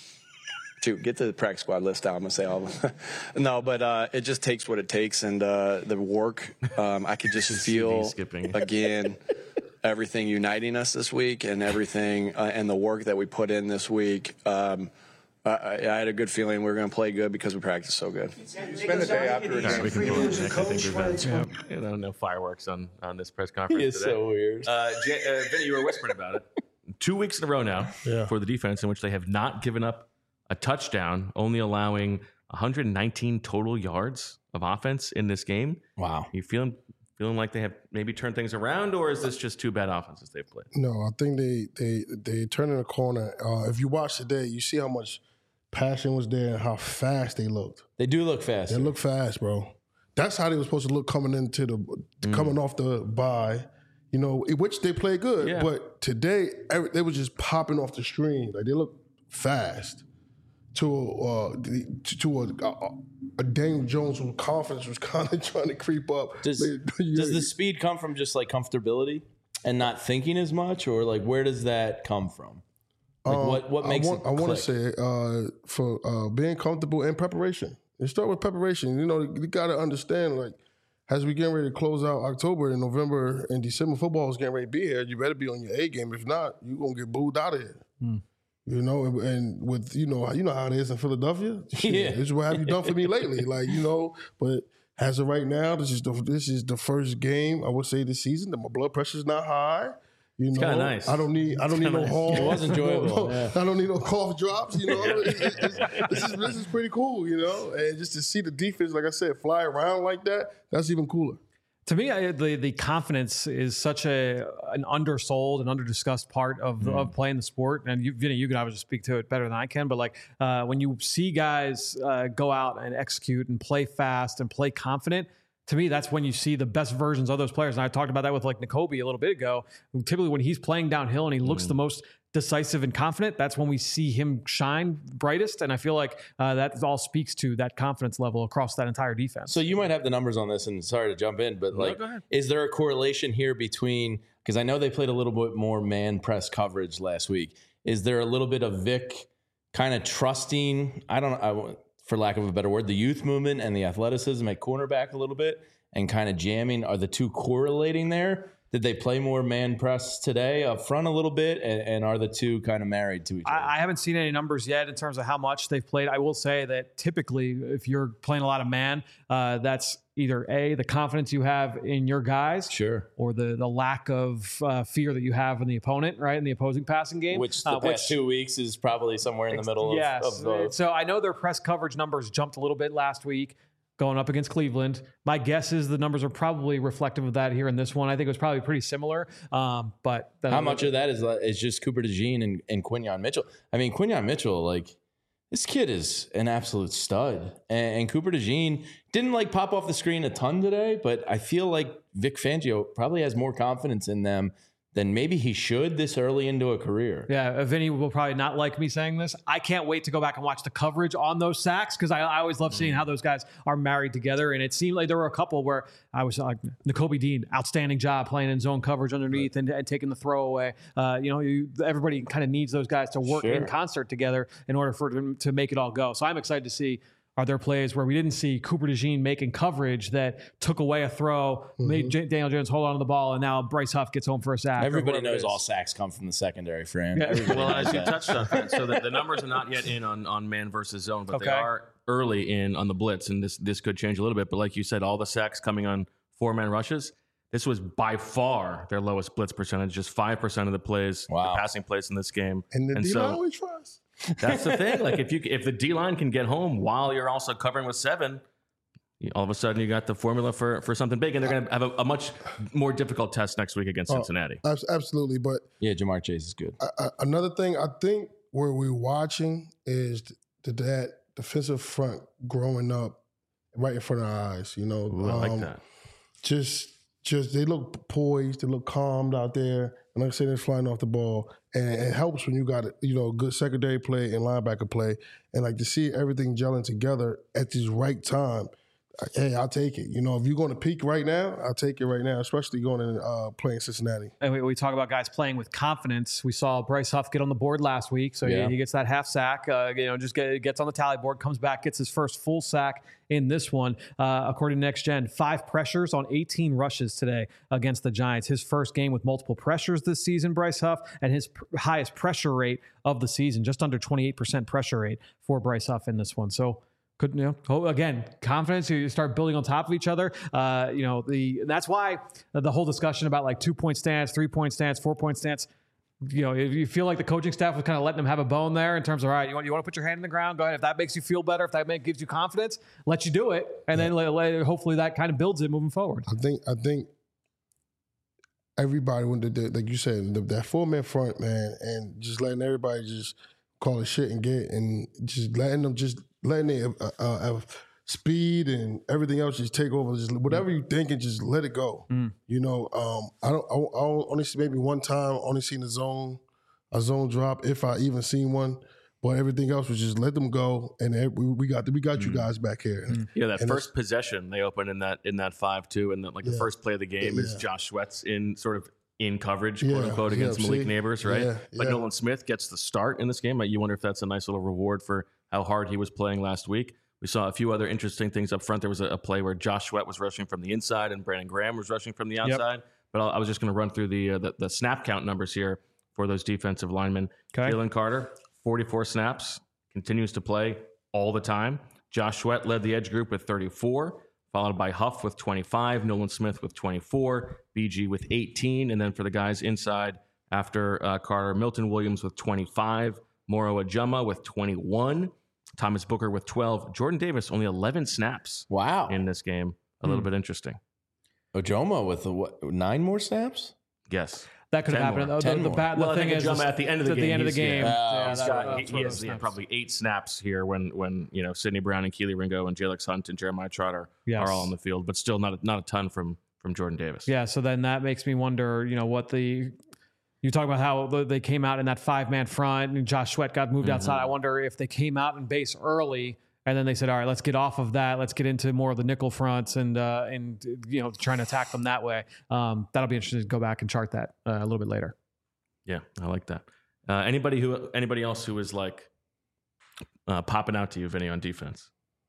To get the practice squad list out, I'm gonna say all of them. No, but uh, it just takes what it takes, and uh, the work. Um, I could just feel again everything uniting us this week, and everything, uh, and the work that we put in this week. Um, I, I had a good feeling we were going to play good because we practiced so good. You spend the day after a game. We can go on, Nick. I think we've had, yeah, you know, no fireworks on, on this press conference He is today. so weird. Uh, J- uh, Vinny, you were whispering about it. Two weeks in a row now Yeah. for the defense in which they have not given up a touchdown, only allowing one hundred nineteen total yards of offense in this game. Wow. You feeling feeling like they have maybe turned things around, or is this just two bad offenses they've played? No, I think they they they turning the corner. Uh, if you watch today, you see how much passion was there and how fast they looked. They do look fast. They look fast, bro. That's how they were supposed to look coming into the mm. coming off the bye. You know, in which they played good, Yeah. but today every, they were just popping off the screen. Like they look fast. To uh, to, to a, a, a Daniel Jones whose confidence was kind of trying to creep up. Does, does the speed come from just like comfortability and not thinking as much, or like where does that come from? Like um, what what makes I want, it? I want to click? say uh, for uh, being comfortable and preparation. It start with preparation. You know, you got to understand like as we getting ready to close out October and November and December, football is getting ready to be here. You better be on your A game. If not, you're gonna get booed out of here. Mm. You know, and, and with you know, you know how it is in Philadelphia. Shit, Yeah. this is what have you done for me lately? Like you know, but as of right now, this is the this is the first game I would say this season that my blood pressure's not high. You It's know, kinda nice. I don't need I don't need no nice. horns. It was enjoyable, No, no, yeah. I don't need no cough drops. You know, It's- it's- it's- this is this is pretty cool. You know, and just to see the defense, like I said, fly around like that, that's even cooler. To me, I, the the confidence is such a an undersold and underdiscussed part of Mm. of playing the sport. And you, Vinny, you can obviously speak to it better than I can. But like uh, when you see guys uh, go out and execute and play fast and play confident, to me, that's when you see the best versions of those players. And I talked about that with like Nakobe a little bit ago. Typically, when he's playing downhill and he looks the most decisive and confident, that's when we see him shine brightest. And I feel like uh, that all speaks to that confidence level across that entire defense. So you might have the numbers on this, and sorry to jump in, but like, go ahead. is there a correlation here between, because I know they played a little bit more man press coverage last week. Is there a little bit of Vic kind of trusting, I don't know, I, for lack of a better word, the youth movement and the athleticism at cornerback a little bit and kind of jamming? Are the two correlating there? Did they play more man press today up front a little bit? And, and are the two kind of married to each other? I, I haven't seen any numbers yet in terms of how much they've played. I will say that typically, if you're playing a lot of man, uh, that's either A, the confidence you have in your guys, sure, or the the lack of uh, fear that you have in the opponent, right, in the opposing passing game. Which the uh, past two weeks is probably somewhere in the middle of, yes. of both. So I know their press coverage numbers jumped a little bit last week, going up against Cleveland. My guess is the numbers are probably reflective of that here in this one. I think it was probably pretty similar. Um, but How much of that is is just Cooper DeJean and, and Quinyon Mitchell? I mean, Quinyon Mitchell, like, this kid is an absolute stud. And, and Cooper DeJean didn't like pop off the screen a ton today, but I feel like Vic Fangio probably has more confidence in them than maybe he should this early into a career. Yeah, Vinny will probably not like me saying this. I can't wait to go back and watch the coverage on those sacks because I, I always love seeing how those guys are married together. And it seemed like there were a couple where I was like, Nakobe Dean, outstanding job playing in zone coverage underneath and, and taking the throw away. Uh, you know, you, everybody kind of needs those guys to work Sure. in concert together in order for them to make it all go. So I'm excited to see. Are there plays where we didn't see Cooper DeJean making coverage that took away a throw, Mm-hmm. made J- Daniel Jones hold on to the ball, and now Bryce Huff gets home for a sack? or Everybody whatever it knows is. all sacks come from the secondary frame. Yeah. Everybody Well, knows as you that. touched on that, so the, the numbers are not yet in on, on man versus zone, but they Okay. are early in on the blitz, and this this could change a little bit. But like you said, all the sacks coming on four man rushes. This was by far their lowest blitz percentage, just five percent of the plays, Wow. the passing plays in this game. And the and D so line always tries. that's the thing. Like if you if the D line can get home while you're also covering with seven, you- all of a sudden you got the formula for for something big, and they're going to have a, a much more difficult test next week against Oh, Cincinnati. Abs- Absolutely, but Yeah, Jamar Chase is good. uh, uh, another thing I think where we're watching is th- that defensive front growing up right in front of our eyes. You know, Ooh, I like Um, that. Just, just they look poised, they look calmed out there, and like I said, they're flying off the ball, and it helps when you got you know good secondary play and linebacker play, and like to see everything gelling together at this right time. Hey, I'll take it. You know, if you're going to peak right now, I'll take it right now, especially going and uh, playing Cincinnati. And we, we talk about guys playing with confidence. We saw Bryce Huff get on the board last week, so Yeah. he, he gets that half sack. Uh, you know, just get, gets on the tally board, comes back, gets his first full sack in this one. Uh, according to Next Gen, five pressures on eighteen rushes today against the Giants. His first game with multiple pressures this season, Bryce Huff, and his pr- highest pressure rate of the season, just under twenty-eight percent pressure rate for Bryce Huff in this one. So. Could, you know, oh, again, confidence, you start building on top of each other. Uh, you know, the that's why the whole discussion about like two point stance, three point stance, four point stance, you know, if you feel like the coaching staff was kind of letting them have a bone there in terms of, all right, you want, you want to put your hand in the ground, go ahead. If that makes you feel better, if that make, gives you confidence, let you do it. And then let, let- hopefully that kind of builds it moving forward. I think I think everybody when the, the, like you said the, that four man front, man, and just letting everybody just call it shit and get and just letting them just letting it uh, uh, have speed and everything else just take over. Just whatever you thinking, just let it go. Mm. You know, um, I don't. I, I only see maybe one time. Only seen a zone, a zone drop if I even seen one. But everything else was just let them go, and it- we, we got we got you guys back here. Yeah, that And first possession they opened in that in that five two, and then like the Yeah. first play of the game is Yeah. Josh Sweats in sort of in coverage, Yeah, quote unquote, against yeah, Malik see? Neighbors, right? Yeah, But yeah. Nolan Smith gets the start in this game. You wonder if that's a nice little reward for how hard he was playing last week. We saw a few other interesting things up front. There was a, a play where Josh Sweat was rushing from the inside and Brandon Graham was rushing from the outside. Yep. But I'll, I was just going to run through the, uh, the the snap count numbers here for those defensive linemen. Okay. Jalen Carter, forty-four snaps, continues to play all the time. Josh Sweat led the edge group with thirty-four, followed by Huff with twenty-five, Nolan Smith with twenty-four, B G with eighteen, and then for the guys inside after uh, Carter, Milton Williams with twenty-five, Moro Ajuma with twenty-one, Thomas Booker with twelve, Jordan Davis only eleven snaps. Wow. In this game. A little hmm. bit interesting. Ajuma with the, what, nine more snaps? Yes. That could have happened. More. The, the, the, the, well, the thing is, at the end of the at game, the end of the game, yeah, yeah, he's that, got, that, he, he has yeah, probably eight snaps here when when you know Sidney Brown and Keely Ringo and Jalex Hunt and Jeremiah Trotter yes. are all on the field, but still not a, not a ton from from Jordan Davis. Yeah, so then that makes me wonder, you know, what the you talk about how they came out in that five man front and Josh Sweat got moved mm-hmm. outside. I wonder if they came out in base early. And then they said, all right, let's get off of that. Let's get into more of the nickel fronts and, uh, and you know, trying to attack them that way. Um, that'll be interesting to go back and chart that uh, a little bit later. Yeah, I like that. Uh, anybody who, anybody else who is like uh, popping out to you, Vinny, on defense?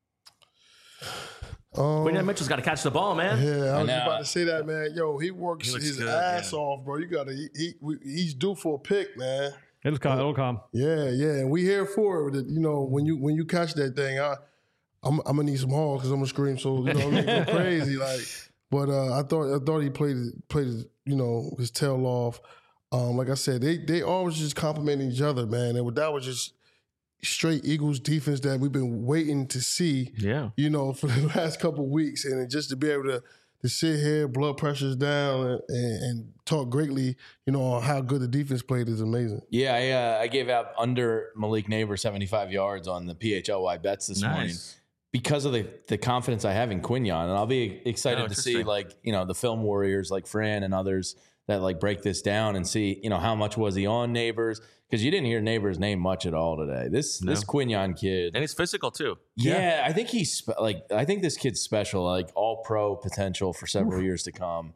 Um, Quinyon Mitchell's got to catch the ball, man. Yeah, I was about to say that, man. Yo, he works he his good, ass yeah. off, bro. You got to, he, he, he's due for a pick, man. It'll come. It'll come. Yeah, yeah, and we here for it. You know, when you when you catch that thing, I, I'm, I'm gonna need some horns because I'm gonna scream so you know what I mean, go crazy like. But uh, I thought I thought he played played his, you know his tail off. Um, like I said, they they always just complimenting each other, man, and that was just straight Eagles defense that we've been waiting to see. Yeah, you know, for the last couple of weeks, and just to be able to. To sit here, blood pressure's down, and, and talk greatly, you know, on how good the defense played is amazing. Yeah, I, uh, I gave out under Malik Neighbor seventy-five yards on the P H L Y bets this nice. morning because of the, the confidence I have in Quinyon. And I'll be excited oh, to see, like, you know, the film warriors like Fran and others that, like, break this down and see, you know, how much was he on Neighbors? Because you didn't hear Neighbors' name much at all today. This no. this Quinyon kid. And he's physical, too. Yeah, yeah. I think he's, spe- like, I think this kid's special, like, all-pro potential for several Oof. years to come.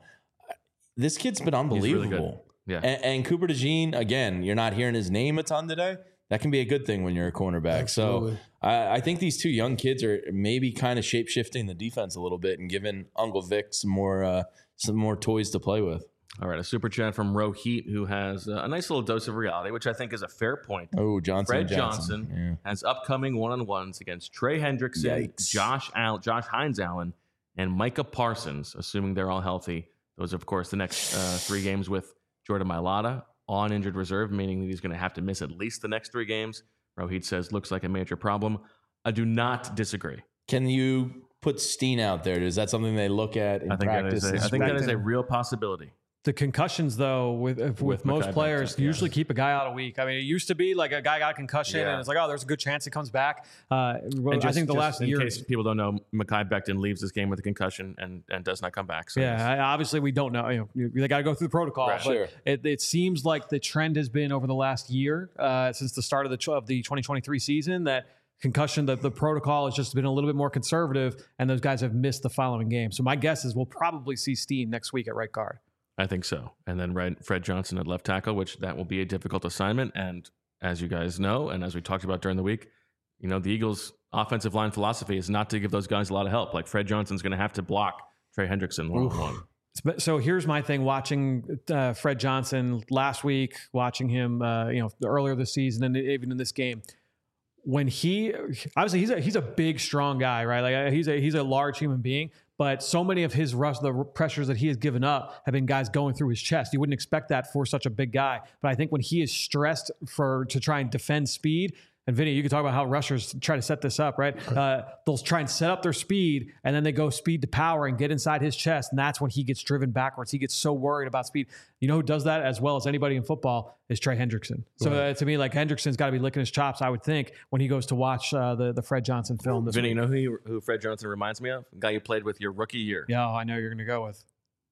This kid's been unbelievable. He's really good. Yeah. And, and Cooper DeJean, again, you're not hearing his name a ton today. That can be a good thing when you're a cornerback. Absolutely. So I, I think these two young kids are maybe kind of shape-shifting the defense a little bit and giving Uncle Vic some more, uh, some more toys to play with. All right, a super chat from Ro Heat, who has a nice little dose of reality, which I think is a fair point. Oh, Johnson. Fred Johnson, Johnson yeah. has upcoming one-on-ones against Trey Hendrickson, Yikes. Josh Al- Josh Hines Allen, and Micah Parsons, assuming they're all healthy. Those are, of course, the next uh, three games with Jordan Mailata on injured reserve, meaning that he's going to have to miss at least the next three games. Rohit says, looks like a major problem. I do not disagree. Can you put Steen out there? Is that something they look at in I think practice? That is a, I think that is a real possibility. The concussions, though, with with, with most Mackay players, Becton, usually yeah. keep a guy out a week. I mean, it used to be like a guy got a concussion, yeah. and it's like, oh, there's a good chance he comes back. Uh, well, just, I think the last in year, in case people don't know, Mackay Becton leaves this game with a concussion and, and does not come back. So yeah, I, obviously we don't know. You know, they got to go through the protocol. Right. But Sure. it, it seems like the trend has been over the last year, uh, since the start of the of the twenty twenty-three season, that concussion, that the protocol has just been a little bit more conservative, and those guys have missed the following game. So my guess is we'll probably see Steen next week at right guard. I think so. And then Fred Johnson at left tackle, which that will be a difficult assignment. And as you guys know, and as we talked about during the week, you know, the Eagles' offensive line philosophy is not to give those guys a lot of help. Like Fred Johnson's going to have to block Trey Hendrickson one-on-one. So here's my thing: watching uh, Fred Johnson last week, watching him, uh, you know, earlier this season, and even in this game, when he obviously he's a he's a big, strong guy, right? Like he's a he's a large human being. But so many of his rush, the pressures that he has given up have been guys going through his chest. You wouldn't expect that for such a big guy. But I think when he is stressed for to try and defend speed, and Vinny, you can talk about how rushers try to set this up, right? Uh, they'll try and set up their speed, and then they go speed to power and get inside his chest, and that's when he gets driven backwards. He gets so worried about speed. You know who does that as well as anybody in football is Trey Hendrickson. So right. uh, to me, like Hendrickson's got to be licking his chops, I would think, when he goes to watch uh, the the Fred Johnson film. This Vinny, week. you know who, he, who Fred Johnson reminds me of? The guy you played with your rookie year. Yeah, I know you're going to go with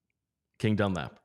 King Dunlap.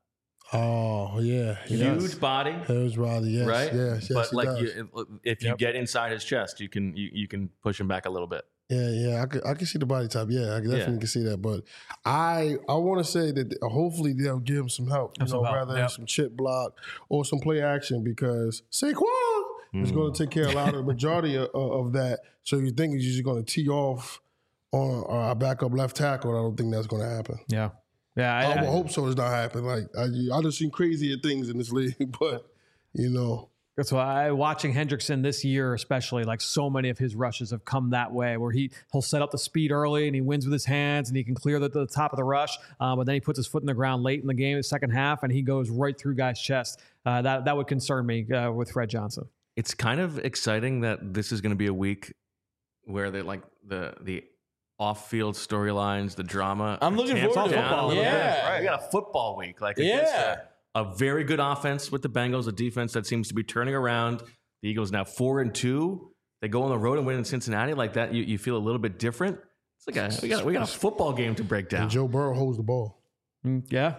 Oh yeah, huge does. body, huge body, yes, right? Yes, yes, but like, does. you, if you yep. get inside his chest, you can you, you can push him back a little bit. Yeah, yeah, I could I can see the body type. Yeah, I definitely yeah. can see that. But I I want to say that hopefully they'll give him some help. You some know, help. rather yep. some chip block or some play action because Saquon It's Mm. going to take care of a lot of the majority of, of that. So you think he's just going to tee off on our backup left tackle? I don't think that's going to happen. Yeah. Yeah. I, I, I I hope so. It's not happening. Like I, I just seen crazier things in this league, but you know. That's why watching Hendrickson this year, especially, like so many of his rushes have come that way, where he he'll set up the speed early and he wins with his hands and he can clear the, the top of the rush, uh, but then he puts his foot in the ground late in the game, the second half, and he goes right through guys' chest. Uh, that that would concern me uh, with Fred Johnson. It's kind of exciting that this is going to be a week where they like the the off-field storylines, the drama. I'm looking tamps forward to down football. a little Yeah. bit, right? We got a football week, like Yeah. against a, a very good offense with the Bengals, a defense that seems to be turning around. The Eagles now four and two. They go on the road and win in Cincinnati like that. You, you feel a little bit different. It's like a, we got we got a football game to break down. And Joe Burrow holds the ball. Mm, yeah.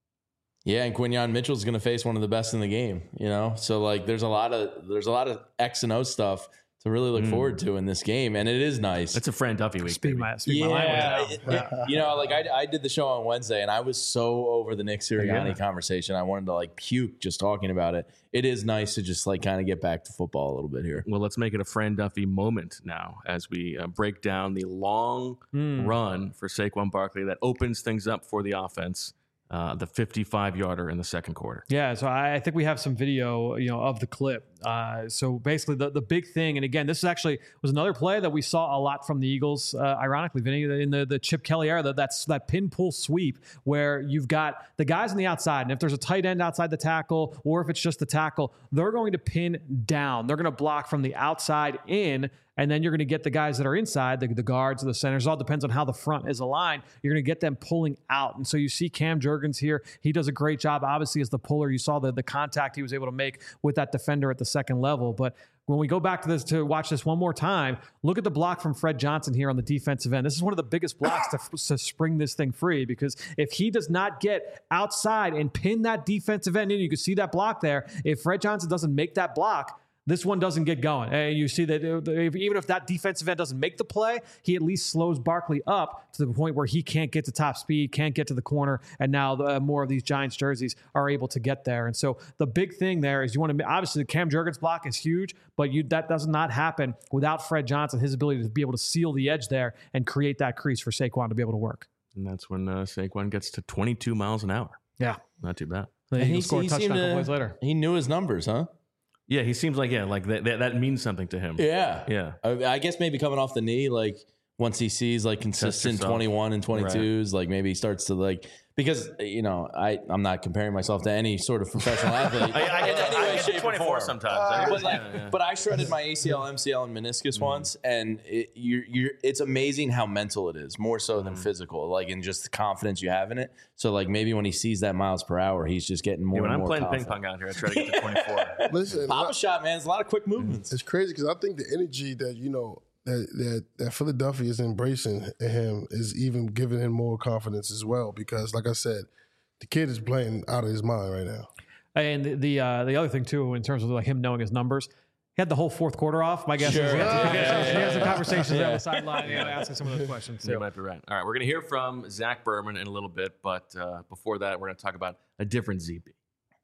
Yeah, and Quinyon Mitchell's going to face one of the best in the game, you know? So like there's a lot of there's a lot of X and O stuff to really look Mm. forward to in this game, and it is nice. It's a Fran Duffy week. Speak baby. my, speak Yeah, my language now. it- it- you know, like I, I did the show on Wednesday, and I was so over the Nick Sirianni Yeah. conversation. I wanted to like puke just talking about it. It is nice to just like kind of get back to football a little bit here. Well, let's make it a Fran Duffy moment now as we uh, break down the long run for Saquon Barkley that opens things up for the offense. Uh, the fifty-five yarder in the second quarter. Yeah, so I I think we have some video, you know, of the clip. Uh, so basically, the, the big thing, and again, this is actually was another play that we saw a lot from the Eagles. Uh, ironically, Vinny, in the, the Chip Kelly era, that that's that pin pull sweep where you've got the guys on the outside, and if there's a tight end outside the tackle, or if it's just the tackle, they're going to pin down. They're going to block from the outside in. And then you're going to get the guys that are inside, the, the guards, the centers. It all depends on how the front is aligned. You're going to get them pulling out. And so you see Cam Jurgens here. He does a great job, obviously, as the puller. You saw the, the contact he was able to make with that defender at the second level. But when we go back to this to watch this one more time, look at the block from Fred Johnson here on the defensive end. This is one of the biggest blocks to, to spring this thing free, because if he does not get outside and pin that defensive end in, you can see that block there. If Fred Johnson doesn't make that block, this one doesn't get going. And you see that even if that defensive end doesn't make the play, he at least slows Barkley up to the point where he can't get to top speed, can't get to the corner, and now the, more of these Giants jerseys are able to get there. And so the big thing there is you want to, obviously the Cam Jurgens block is huge, but you that does not happen without Fred Johnson, his ability to be able to seal the edge there and create that crease for Saquon to be able to work. And that's when uh, Saquon gets to twenty-two miles an hour. Yeah. Not too bad. The And Eagles score a he touchdown seemed a couple to- plays later. He knew his numbers, huh? Yeah, he seems like, yeah, like that, that, that means something to him. Yeah. Yeah. I, I guess maybe coming off the knee, like once he sees like consistent yourself. twenty-one and twenty-twos, like maybe he starts to like, because, you know, I, I'm not comparing myself to any sort of professional athlete. I, I in get, any I way, get shape, to or twenty-four form. sometimes. Uh, I but, like, yeah, yeah. but I shredded my A C L, M C L, and meniscus once, and it, you're, you're, it's amazing how mental it is, more so than physical, like in just the confidence you have in it. So like maybe when he sees that miles per hour, he's just getting more Yeah, when and I'm more playing confident. ping pong out here, I try to get to twenty-four. Listen, Pop I- a shot, man. It's a lot of quick movements. It's crazy because I think the energy that you know that that that Philadelphia is embracing in him is even giving him more confidence as well. Because, like I said, the kid is playing out of his mind right now. And the the, uh, the other thing too, in terms of like him knowing his numbers, he had the whole fourth quarter off. My guess Sure. is he had, some, Yeah, he had some- yeah, he had some yeah. conversations there on Yeah. the sideline, you know, asking some of those questions You too. might be right. All right, we're going to hear from Zach Berman in a little bit, but uh, before that, we're going to talk about a different Z B.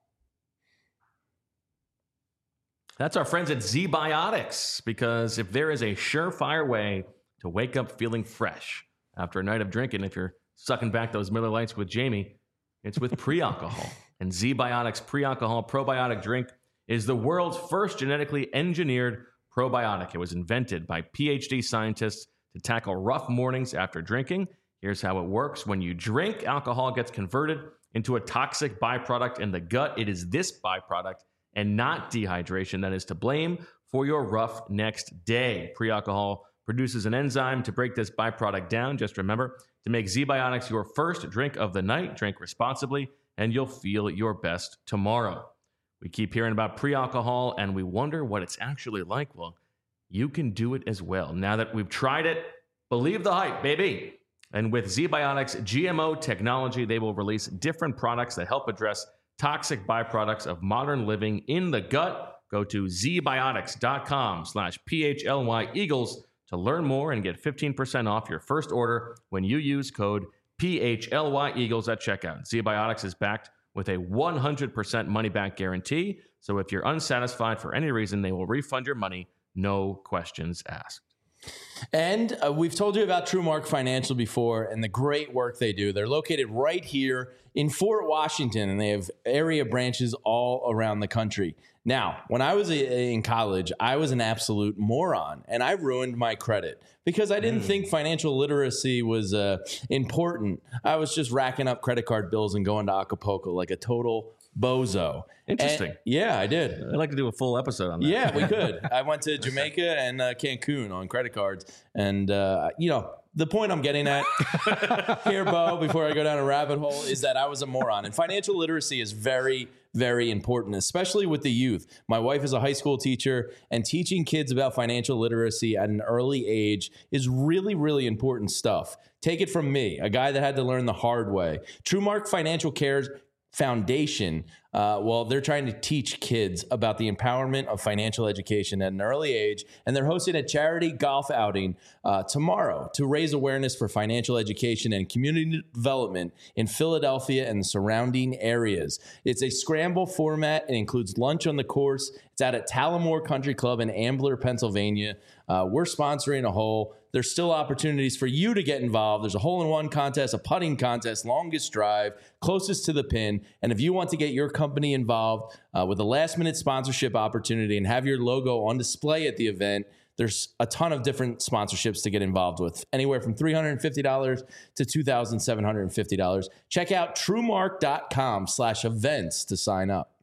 That's our friends at Z-Biotics, because if there is a surefire way to wake up feeling fresh after a night of drinking, if you're sucking back those Miller Lights with Jamie, it's with pre-alcohol. And Z-Biotics pre-alcohol probiotic drink is the world's first genetically engineered probiotic. It was invented by PhD scientists to tackle rough mornings after drinking. Here's how it works. When you drink, alcohol gets converted into a toxic byproduct in the gut. It is this byproduct and not dehydration that is to blame for your rough next day. Pre-alcohol produces an enzyme to break this byproduct down. Just remember to make Z-Biotics your first drink of the night. Drink responsibly, and you'll feel your best tomorrow. We keep hearing about pre-alcohol, and we wonder what it's actually like. Well, you can do it as well. Now that we've tried it, believe the hype, baby. And with Z-Biotics G M O technology, they will release different products that help address toxic byproducts of modern living in the gut. Go to zbiotics.com slash PHLY Eagles to learn more and get fifteen percent off your first order when you use code P H L Y Eagles at checkout. Z-Biotics is backed with a one hundred percent money-back guarantee, So if you're unsatisfied for any reason, they will refund your money, no questions asked. And uh, we've told you about TrueMark Financial before and the great work they do. They're located right here in Fort Washington, and they have area branches all around the country. Now, when I was in college, I was an absolute moron, and I ruined my credit because I didn't mm. think financial literacy was uh, important. I was just racking up credit card bills and going to Acapulco like a total bozo. Interesting. And, yeah, I did. I'd like to do a full episode on that. Yeah, we could. I went to Jamaica and uh, Cancun on credit cards. And, uh, you know, the point I'm getting at here, Bo, before I go down a rabbit hole, is that I was a moron. And financial literacy is very, very important, especially with the youth. My wife is a high school teacher, and teaching kids about financial literacy at an early age is really, really important stuff. Take it from me, a guy that had to learn the hard way. TrueMark Financial Cares Foundation, uh, well, they're trying to teach kids about the empowerment of financial education at an early age, and they're hosting a charity golf outing uh, tomorrow to raise awareness for financial education and community development in Philadelphia and the surrounding areas. It's a scramble format. It includes lunch on the course. It's out at Talamore Country Club in Ambler, Pennsylvania. Uh, we're sponsoring a hole. There's still opportunities for you to get involved. There's a hole-in-one contest, a putting contest, longest drive, closest to the pin. And if you want to get your company involved uh, with a last-minute sponsorship opportunity and have your logo on display at the event, there's a ton of different sponsorships to get involved with, anywhere from three hundred fifty dollars to two thousand seven hundred fifty dollars. Check out truemark.com slash events to sign up.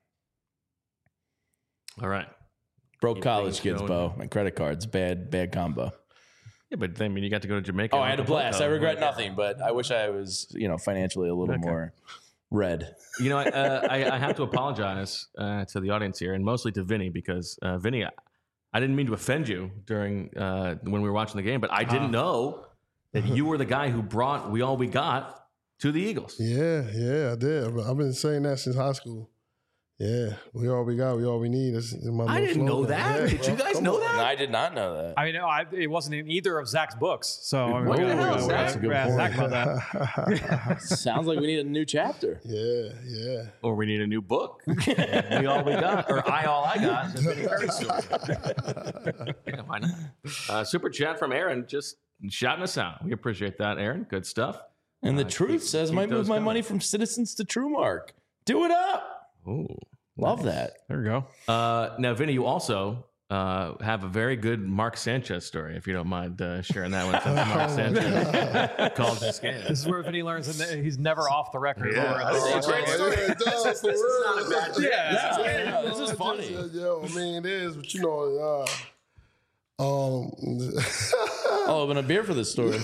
All right. Broke Keep college things kids, going. Bo. My credit cards, bad, bad combo. Yeah, but I mean, you got to go to Jamaica. Oh, I had a blast. I regret Right. nothing, but I wish I was, you know, financially a little Okay. more red. You know, I, uh, I, I have to apologize uh, to the audience here, and mostly to Vinny, because uh, Vinny, I, I didn't mean to offend you during uh, when we were watching the game, but I didn't Uh. know that you were the guy who brought We All We Got to the Eagles. Yeah, yeah, I did. I've been- I've been saying that since high school. Yeah, we all we got, we all we need. That's my I new didn't know slogan. that. Yeah, Did bro. you guys Come know on. that? I did not know that. I mean, no, I, it wasn't in either of Zach's books. So I mean, What we the gotta- hell, we gotta- Zach? we gotta ask Zach about that. Sounds like we need a new chapter. Yeah, yeah. Or we need a new book. We All We Got, or I All I Got. The Vinny Curry story. Yeah, why not? Uh, super chat from Aaron, just shouting us out. We appreciate that, Aaron. Good stuff. And the Uh, truth keep- says, keep might move those my coming. money from Citizens to TrueMark. Do it up. Ooh. Love that. There we go. Uh, now, Vinny, you also uh, have a very good Mark Sanchez story, if you don't mind uh, sharing that one. Since Mark Sanchez called this game. This is where Vinny learns that he's never off the record. Yeah. Or- I think it's a great story. Yeah, it does, for real. Yeah, Yeah, yeah, this is funny. Yeah, I mean, it is, but you know, uh, um, I'll open a beer for this story.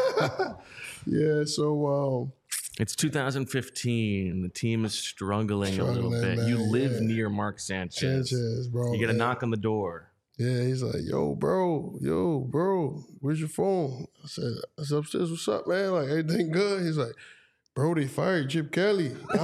yeah. So, um, It's two thousand fifteen. The team is struggling, a little Struggling, bit. You man, live yeah. near Mark Sanchez. Sanchez, bro. You get a yeah. knock on the door. Yeah, he's like, yo, bro, yo, bro, where's your phone? I said, I said, upstairs, what's up, man? Like, everything good? He's like, bro, they fired Chip Kelly. I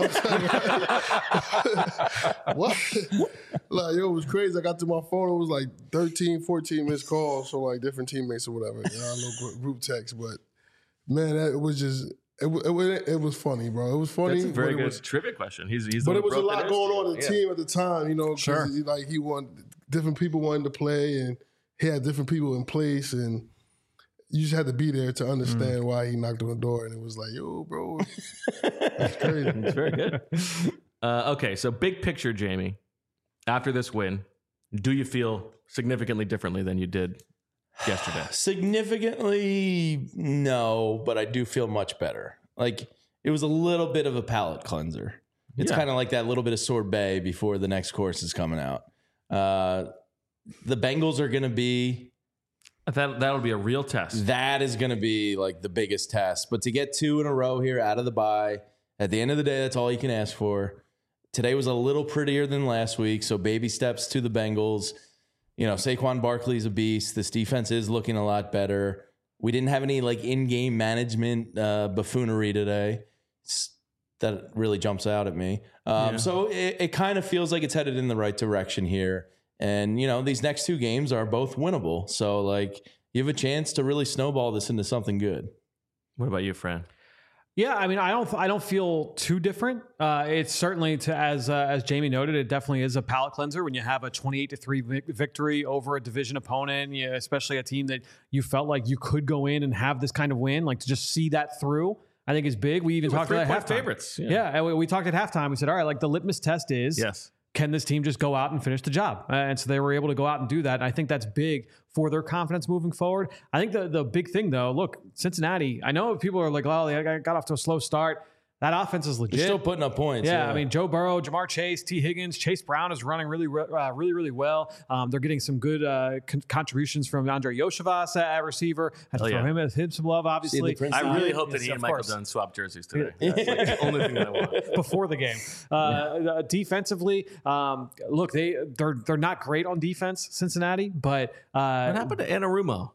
was like, what? Like, yo, it was crazy. I got to my phone, it was like thirteen, fourteen missed calls from like different teammates or whatever. You know, little group text, but man, that, it was just, it, wa- it, wa- it was funny, bro. It was funny. That's a very but good it was, trivia question. He's, he's the but one it who was a broke lot that going on in the history. team at the time, you know, because Sure. he, like he wanted different people wanted to play, and he had different people in place, and you just had to be there to understand why he knocked on the door, and it was like, yo, bro, that's crazy. It's very good. Uh, okay, so big picture, Jamie. After this win, do you feel significantly differently than you did yesterday? Significantly, no, but I do feel much better. Like, it was a little bit of a palate cleanser. It's Yeah. kind of like that little bit of sorbet before the next course is coming out. Uh, the Bengals are going to be... That, that'll be a real test. That is going to be like the biggest test. But to get two in a row here out of the bye, at the end of the day, that's all you can ask for. Today was a little prettier than last week, so baby steps to the Bengals. You know, Saquon Barkley's a beast. This defense is looking a lot better. We didn't have any like in-game management uh, buffoonery today. S- That really jumps out at me. Um, Yeah. So it, it kind of feels like it's headed in the right direction here. And, you know, these next two games are both winnable. So, like, you have a chance to really snowball this into something good. What about you, Fran? Yeah, I mean, I don't, I don't feel too different. Uh, it's certainly, to as uh, as Jamie noted, it definitely is a palate cleanser when you have a twenty-eight to three vic- victory over a division opponent, you know, especially a team that you felt like you could go in and have this kind of win. Like to just see that through, I think is big. We even They were talked about three-point halftime. favorites. Yeah. Yeah, and we, we talked at halftime. We said, all right, like the litmus test is, Yes. can this team just go out and finish the job? Uh, and so they were able to go out and do that. And I think that's big for their confidence moving forward. I think the the big thing, though, look, Cincinnati, I know people are like, oh, they got off to a slow start. That offense is legit. They're still putting up points. Yeah, Yeah, I mean, Joe Burrow, Jamar Chase, T. Higgins, Chase Brown is running really, uh, really, really well. Um, they're getting some good uh, con- contributions from Andre Yoshivas at receiver. I have to Oh, throw yeah. him, him some love, obviously. I really hope that Yes, he and of Michael course. Dunn swap jerseys today. That's like the only thing that I want. Before the game. Uh, uh, defensively, um, look, they they're they're not great on defense, Cincinnati, but uh, What happened to Anarumo?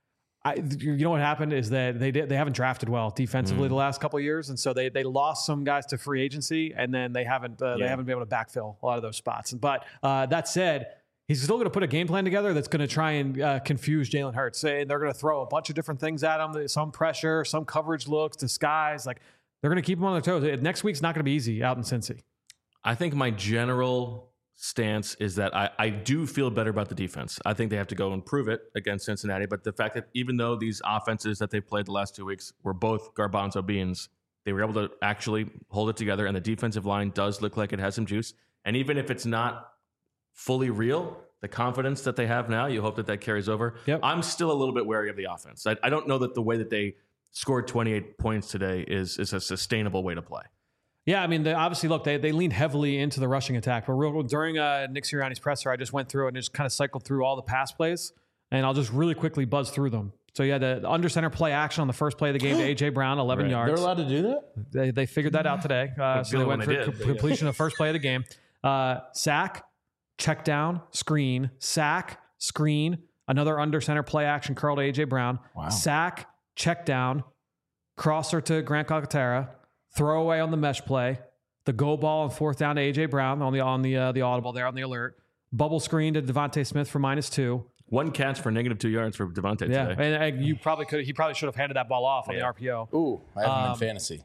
I, you know what happened is that they did, they haven't drafted well defensively Mm. the last couple of years, and so they they lost some guys to free agency, and then they haven't uh, they Yeah. haven't been able to backfill a lot of those spots. But uh, that said, he's still going to put a game plan together that's going to try and uh, confuse Jalen Hurts, and they're going to throw a bunch of different things at him, some pressure, some coverage looks, disguise. Like they're going to keep him on their toes. Next week's not going to be easy out in Cincy. I think my general stance is that I, I do feel better about the defense. I think they have to go and prove it against Cincinnati. But the fact that even though these offenses that they've played the last two weeks were both garbanzo beans, they were able to actually hold it together. And the defensive line does look like it has some juice. And even if it's not fully real, the confidence that they have now, you hope that that carries over. Yep. I'm still a little bit wary of the offense. I, I don't know that the way that they scored twenty-eight points today is, is a sustainable way to play. Yeah, I mean, they, obviously, look, they they leaned heavily into the rushing attack. But real, during uh, Nick Sirianni's presser, I just went through and just kind of cycled through all the pass plays, and I'll just really quickly buzz through them. So you had the under center play action on the first play of the game to A J Brown, eleven Right. yards. They're allowed to do that? They they figured that out today. Uh, so good they when went they for did, co- but yeah. completion of the first play of the game. Uh, sack, check down, screen, sack, screen, another under center play action curl to A J Brown. Wow. Sack, check down, crosser to Grant Calcaterra, throwaway on the mesh play, the go ball and fourth down to A J Brown on the on the uh, the audible there on the alert, bubble screen to Devontae Smith for minus two. One catch for negative two yards for Devontae Yeah, today. and, and you probably could he probably should have handed that ball off on the Yeah. R P O. Ooh, I have him Um, in fantasy.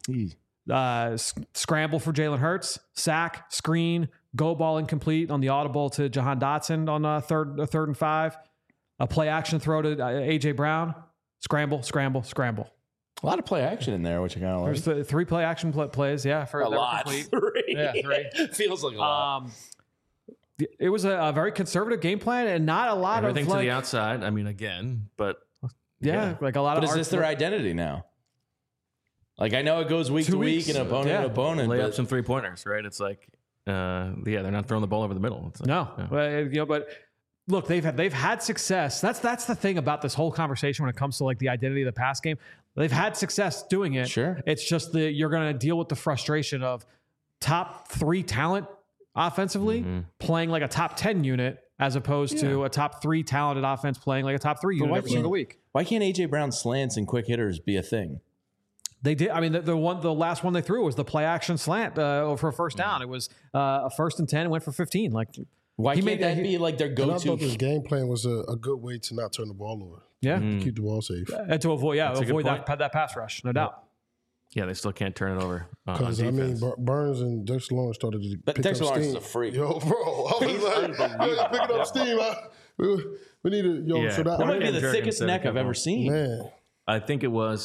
Uh, s- scramble for Jalen Hurts, sack, screen, go ball incomplete on the audible to Jahan Dotson on uh, third uh, third and five, a play action throw to uh, A J Brown, scramble, scramble, scramble. A lot of play action in there, which I kind of like. There's the three play action pl- plays, yeah, for a that were lot. complete. Three. Yeah, three. Feels like a lot. Um, th- it was a, a very conservative game plan and not a lot Everything of to like, the outside. I mean, again, but yeah, yeah. like a lot but of is art- this their identity now? Like, I know it goes week Two to weeks. week and opponent Yeah. to opponent. lay up But some three pointers, right? It's like, uh, yeah, they're not throwing the ball over the middle. It's like, No, yeah. Well, you know, but look, they've had they've had success. That's that's the thing about this whole conversation when it comes to like the identity of the pass game. They've had success doing it. Sure. It's just that you're going to deal with the frustration of top three talent offensively Mm-hmm. playing like a top ten unit as opposed to a top three talented offense playing like a top three But unit why every can't- single week. why can't A J Brown slants and quick hitters be a thing? They did. I mean, the, the one, the last one they threw was the play action slant uh, for a first down. It was uh, a first and ten, and went for fifteen. Like, Why He can't made that that- be like their And I go-to? thought this game plan was a, a good way to not turn the ball over, yeah, keep the ball safe. and to avoid, yeah, That's a good avoid point. that that pass rush, no doubt. Yeah, they still can't turn it over on, on Because I mean, defense. Bur- Burns and Dexter Lawrence started to But pick Dexter up Lawrence steam. is a freak. Yo, bro, I was like, I was picking up steam. I, we, we need to, yo, Yeah, so that That might be Ken the Jurgens thickest said neck it I've ever couple- seen. man. I think it was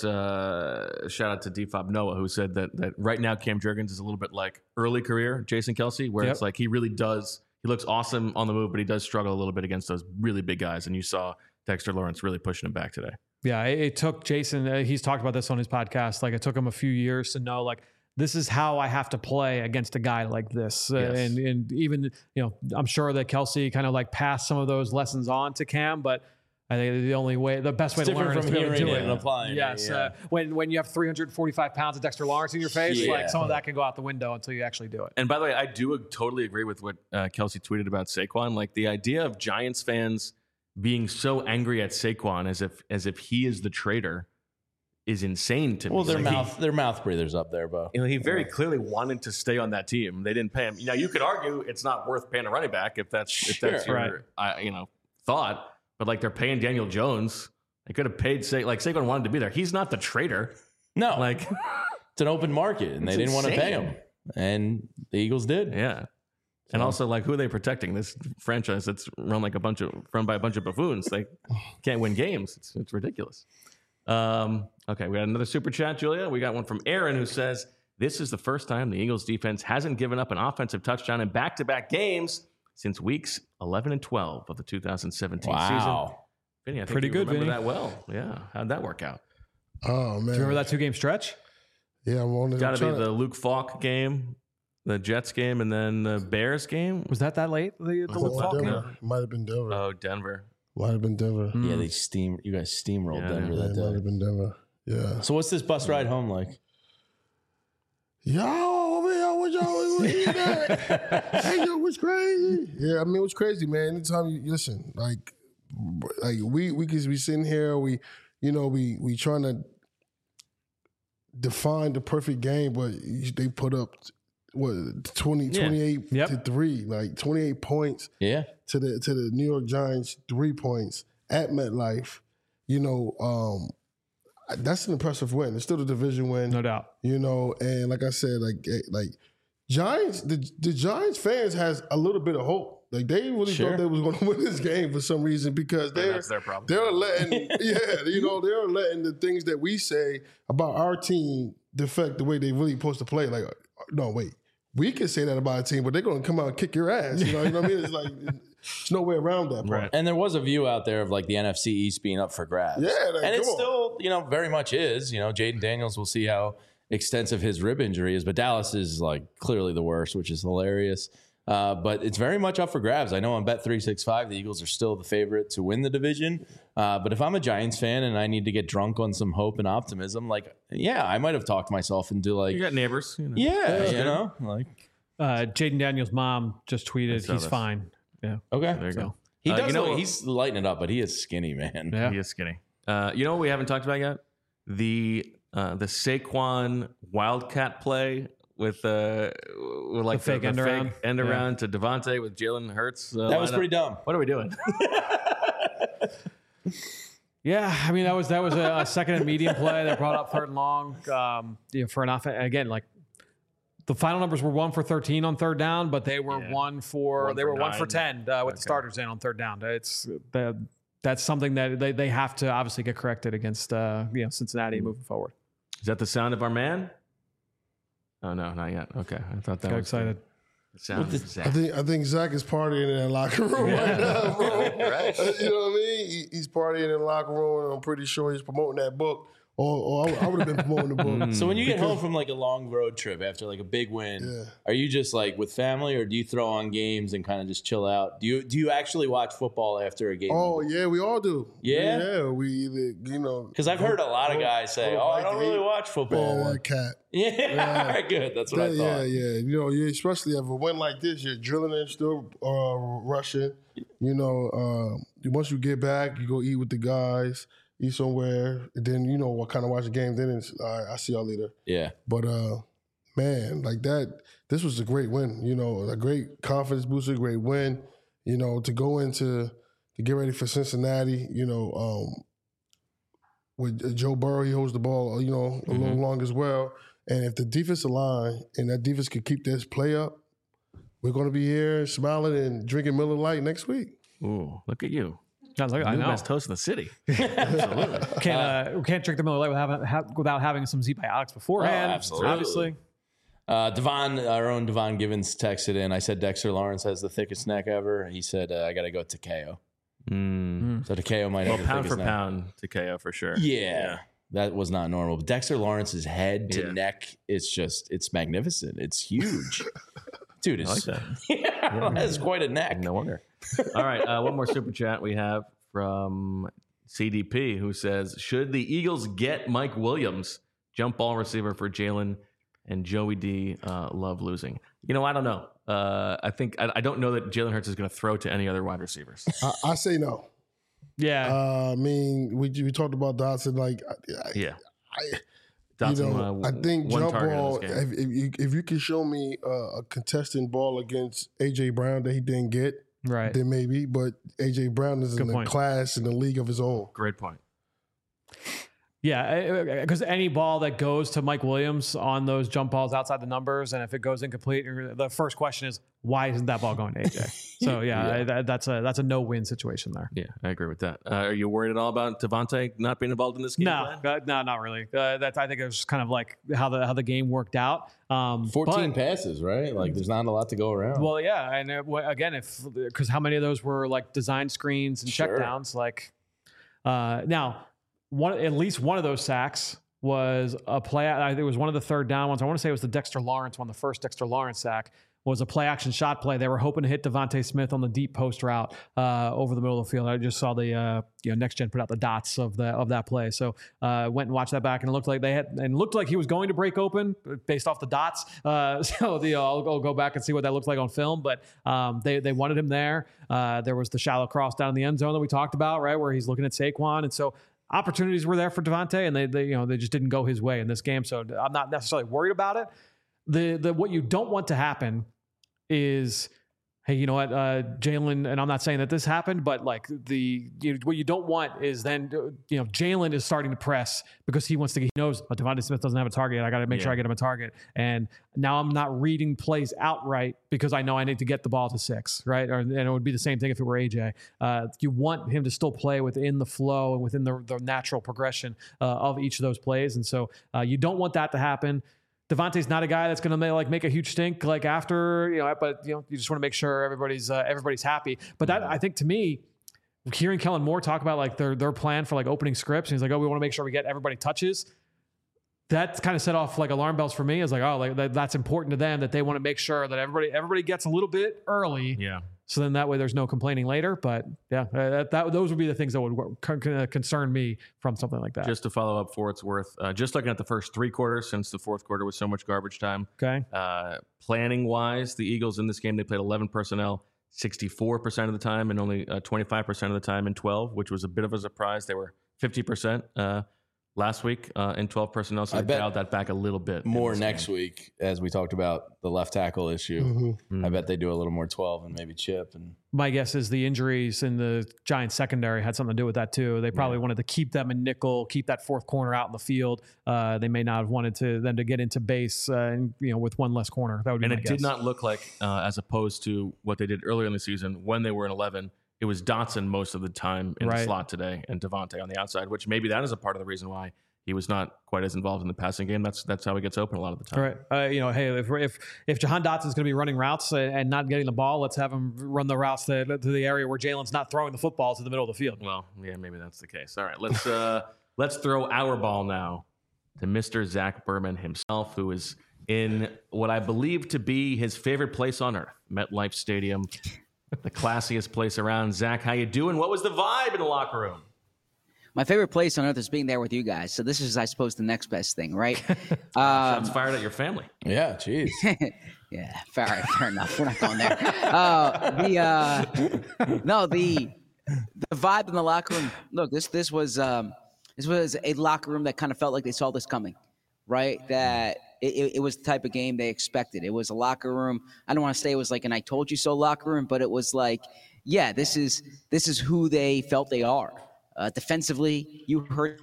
uh, shout out to D F O B Noah who said that that right now Cam Jurgens is a little bit like early career Jason Kelsey, where Yep. it's like he really does he looks awesome on the move, but he does struggle a little bit against those really big guys. And you saw Dexter Lawrence really pushing him back today. Yeah, it, it took Jason. Uh, he's talked about this on his podcast. Like, it took him a few years to know, like, this is how I have to play against a guy like this. Uh, Yes. and and even, you know, I'm sure that Kelsey kind of like passed some of those lessons on to Cam, but I think the only way, the best way It's to learn different is from to be able to hearing do it it. and applying it, Yes. yeah. Uh, when when you have three hundred forty-five pounds of Dexter Lawrence in your face, Yeah. like some of that can go out the window until you actually do it. And by the way, I do totally agree with what uh, Kelsey tweeted about Saquon. Like the idea of Giants fans being so angry at Saquon as if as if he is the traitor is insane to me. Well, their Like, he- mouth, their mouth breathers up there, Bo. You know, he very clearly wanted to stay on that team. They didn't pay him. Now, you could argue it's not worth paying a running back if that's if that's Sure. your uh, you know thought. But like they're paying Daniel Jones, they could have paid Sa- like Saquon wanted to be there. He's not the traitor. No, Like It's an open market, and It's they didn't want to pay insane. him, and the Eagles did. Yeah. And also, like, who are they protecting? This franchise that's run like a bunch of run by a bunch of buffoons. They can't win games. It's, it's ridiculous. Um, okay, we got another super chat, Julia. We got one from Aaron who says, "This is the first time the Eagles defense hasn't given up an offensive touchdown in back-to-back games since weeks eleven and twelve of the two thousand seventeen Wow. season." Vinny, I think Pretty you good, remember Vinny. that well. Yeah, how'd that work out? Oh man, Do you remember that two game stretch? Yeah, I'm on. Got to be the Luke Falk game, the Jets game, and then the Bears game. Was that that late? The, the Luke Falk game? Denver. Might have been Denver. Oh, Denver. Might have been Denver. Mm. Yeah, they steam. You guys steamrolled Yeah, Denver Yeah, that it might day. have been Denver. Yeah. So what's this bus ride home like? Yo, over here, what y'all was eating at? Hey, yo, what's crazy? Yeah, I mean, it was crazy, man. Anytime you listen, like, like we we could be sitting here, we, you know, we we trying to define the perfect game, but they put up what twenty, Yeah. twenty-eight Yep. to three, like twenty-eight points Yeah. to the to the New York Giants, three points at MetLife. You know, um, that's an impressive win. It's still a division win. No doubt. You know, and like I said, like eh, like Giants, the the Giants fans has a little bit of hope. Like they really Sure. thought they was going to win this game for some reason because they're that's their problem. they're letting yeah, you know, they're letting the things that we say about our team defect the way they really supposed to play. Like, no, wait, we can say that about a team, but they're going to come out and kick your ass. You know, you know what I mean? It's like there's no way around that part. Right. And there was a view out there of like the N F C East being up for grabs. Yeah, like, and it come on. still, you know, very much is. You know, Jaden Daniels, we'll see how extensive his rib injury is, but Dallas is like clearly the worst, which is hilarious. Uh, but it's very much up for grabs. I know on Bet three sixty-five, the Eagles are still the favorite to win the division. Uh, but if I'm a Giants fan and I need to get drunk on some hope and optimism, like, yeah, I might have talked myself into like, You got neighbors. You know. yeah, That's you good. know, like, Uh, Jaden Daniels' mom just tweeted saw he's this. fine. Yeah. okay. There you So, go. He Uh, does you know look- what- he's lighting it up, but he is skinny, man. Yeah. He is skinny. Uh, you know what we haven't talked about yet? The uh, the Saquon Wildcat play with uh, with like The fake end around. end Yeah. around to Devontae with Jalen Hurts. Uh, That was lineup. pretty dumb. What are we doing? Yeah, I mean that was that was a, a second and medium play that brought up third and long. Um, you know, for an offense again, like the final numbers were one for thirteen on third down, but they were Yeah. one for One they for were one for nine. ten uh, with Okay. the starters in on third down. It's the, that's something that they, they have to obviously get corrected against uh, you know Cincinnati moving forward. Is that the sound of our man? Oh no, not yet. Okay, I thought that Got was excited. The sound of I Zach. think I think Zach is partying in that locker room right now, bro. Right. You know what I mean? He, he's partying in the locker room, and I'm pretty sure he's promoting that book. Or, or I, I would have been promoting the book. So when you get Because- home from like a long road trip after like a big win, Yeah. are you just like with family, or do you throw on games and kind of just chill out? Do you do you actually watch football after a game? Oh yeah, we all do. Yeah? yeah. We either you know Because I've heard a lot of guys say, go "Oh, I back don't to really eat. watch football." Man, that cat. Yeah, Yeah. all right, good. That's what I Yeah, thought. yeah, yeah. You know, you especially if a win like this, you're drilling and still uh, rushing. You know, um, once you get back, you go eat with the guys, eat somewhere, and then you know what kind of watch the game. Then it's all right, I'll see y'all later. Yeah. But uh, man, like that, this was a great win. You know, a great confidence booster, great win. You know, to go into to get ready for Cincinnati. You know, um, with Joe Burrow, he holds the ball. You know, a little long as well. And if the defensive line and that defense could keep this play up, we're going to be here smiling and drinking Miller Lite next week. Ooh, look at you. Sounds like I New know. best host in the city. Absolutely. Can't uh, we can't drink the Miller Lite without having, ha- without having some Z-Biotics beforehand. Oh, absolutely. Obviously. Uh, Devon, our own Devon Givens texted in. I said Dexter Lawrence has the thickest neck ever. He said uh, I got to go to Takeo. Mm. So Takeo might Well, have the pound thickest for neck. pound to K O for sure. Yeah, that was not normal. But Dexter Lawrence's head to Yeah. neck, it's just, it's magnificent. It's huge. Dude, I it's, like that. yeah, that's quite a neck. No wonder. All right, uh, one more super chat we have from C D P who says, should the Eagles get Mike Williams, jump ball receiver for Jalen and Joey D, uh, love losing? You know, I don't know. Uh, I think I, I don't know that Jalen Hurts is going to throw to any other wide receivers. I, I say no. Yeah. Uh, I mean, we we talked about Dotson. Like, I, Yeah. I, Dotson, you know, uh, I think one jump target in ball. this If, game. if, you, if you can show me uh, a contesting ball against A J Brown that he didn't get, Right. then maybe. But A J Brown is Good in point. a class in the league of his own. Great point. Yeah, because any ball that goes to Mike Williams on those jump balls outside the numbers, and if it goes incomplete, the first question is, why isn't that ball going to A J? So yeah, Yeah. that, that's a that's a no-win situation there. Yeah, I agree with that. Uh, are you worried at all about Devontae not being involved in this game? No, uh, no, not really. Uh, that's I think it was kind of like how the how the game worked out. Um, fourteen but- passes, right? Like there's not a lot to go around. Well, yeah, and uh, w- again, if because how many of those were like design screens and Sure. checkdowns? Like uh, now, one at least one of those sacks was a play. I think it was one of the third down ones. I want to say it was the Dexter Lawrence one, the first Dexter Lawrence sack. Was a play action shot play. They were hoping to hit Devontae Smith on the deep post route uh, over the middle of the field. I just saw the uh, you know next gen put out the dots of the of that play. So uh, went and watched that back, and it looked like they had and it looked like he was going to break open based off the dots. Uh, so the I'll, I'll go back and see what that looks like on film. But um, they they wanted him there. Uh, there was the shallow cross down in the end zone that we talked about, right, where he's looking at Saquon, and so opportunities were there for Devontae, and they they you know they just didn't go his way in this game. So I'm not necessarily worried about it. The the what you don't want to happen is, hey, you know what, uh, Jalen, and I'm not saying that this happened, but like the you, what you don't want is then, you know, Jalen is starting to press because he wants to, he knows, oh, Devontae Smith doesn't have a target. I got to make Yeah. sure I get him a target. And now I'm not reading plays outright because I know I need to get the ball to six, right? Or, and it would be the same thing if it were A J. Uh, you want him to still play within the flow and within the, the natural progression uh, of each of those plays. And so uh, you don't want that to happen. Devontae's not a guy that's going to like make a huge stink like after, you know, but you know, you just want to make sure everybody's uh, everybody's happy. But that, I think, to me, hearing Kellen Moore talk about like their their plan for like opening scripts, and he's like, oh, we want to make sure we get everybody touches. That kind of set off like alarm bells for me. It's like, oh, like that, that's important to them that they want to make sure that everybody everybody gets a little bit early. Yeah. So then that way there's no complaining later. But yeah, uh, that, that those would be the things that would con- con- concern me from something like that. Just to follow up for its worth, uh, just looking at the first three quarters, since the fourth quarter was so much garbage time. Okay. Uh, planning wise, the Eagles in this game, they played eleven personnel sixty-four percent of the time and only uh, twenty-five percent of the time in twelve, which was a bit of a surprise. They were fifty percent uh, last week uh, in twelve personnel, so I they bet dialed that back a little bit. in More this next game. week, as we talked about the left tackle issue. Mm-hmm. I bet they do a little more twelve and maybe chip. And My guess is the injuries in the Giants secondary had something to do with that too. They probably wanted to keep them in nickel, keep that fourth corner out in the field. Uh, they may not have wanted to them to get into base, uh, and you know, with one less corner. That would be And my it guess. did not look like, uh, as opposed to what they did earlier in the season when they were in eleven, it was Dotson most of the time in the Right. slot today and Devontae on the outside, which maybe that is a part of the reason why he was not quite as involved in the passing game. That's that's how he gets open a lot of the time. Right. Uh, you know, hey, if if if Jahan Dotson's going to be running routes and, and not getting the ball, let's have him run the routes to, to the area where Jalen's not throwing the football to the middle of the field. Well, yeah, maybe that's the case. All right, let's uh, let's throw our ball now to Mister Zach Berman himself, who is in what I believe to be his favorite place on earth, MetLife Stadium, the classiest place around. Zach, how you doing? What was the vibe in the locker room? My favorite place on earth is being there with you guys. So this is, I suppose, the next best thing, right? Shots um, fired at your family. Yeah, jeez. yeah, fair, fair enough. We're not going there. Uh, the uh, no, the the vibe in the locker room. Look, this this was um, this was a locker room that kind of felt like they saw this coming, right? That it, it was the type of game they expected. It was a locker room. I don't want to say it was like an "I told you so" locker room, but it was like, yeah, this is this is who they felt they are. Uh, defensively, you heard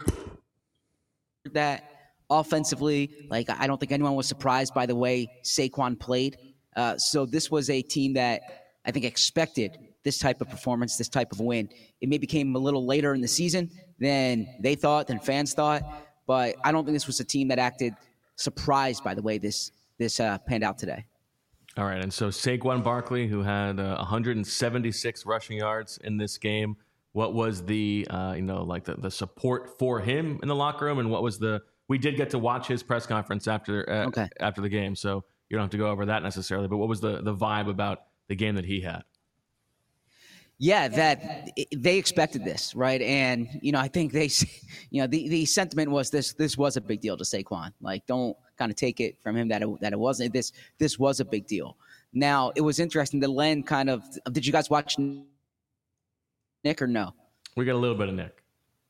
that. Offensively, like I don't think anyone was surprised by the way Saquon played. Uh, so this was a team that I think expected this type of performance, this type of win. It maybe came a little later in the season than they thought, than fans thought, but I don't think this was a team that acted surprised by the way this this uh, panned out today. All right, and so Saquon Barkley, who had uh, one hundred seventy-six rushing yards in this game, what was the uh, you know like the, the support for him in the locker room, and what was the we did get to watch his press conference after uh, Okay. after the game, so you don't have to go over that necessarily. But what was the the vibe about the game that he had? Yeah, that they expected this, right? And you know, I think they, you know, the, the sentiment was this: this was a big deal to Saquon. Like, don't kind of take it from him that it, that it wasn't. This this was a big deal. Now, it was interesting. The Len kind of. Did you guys watch Nick or no? We got a little bit of Nick.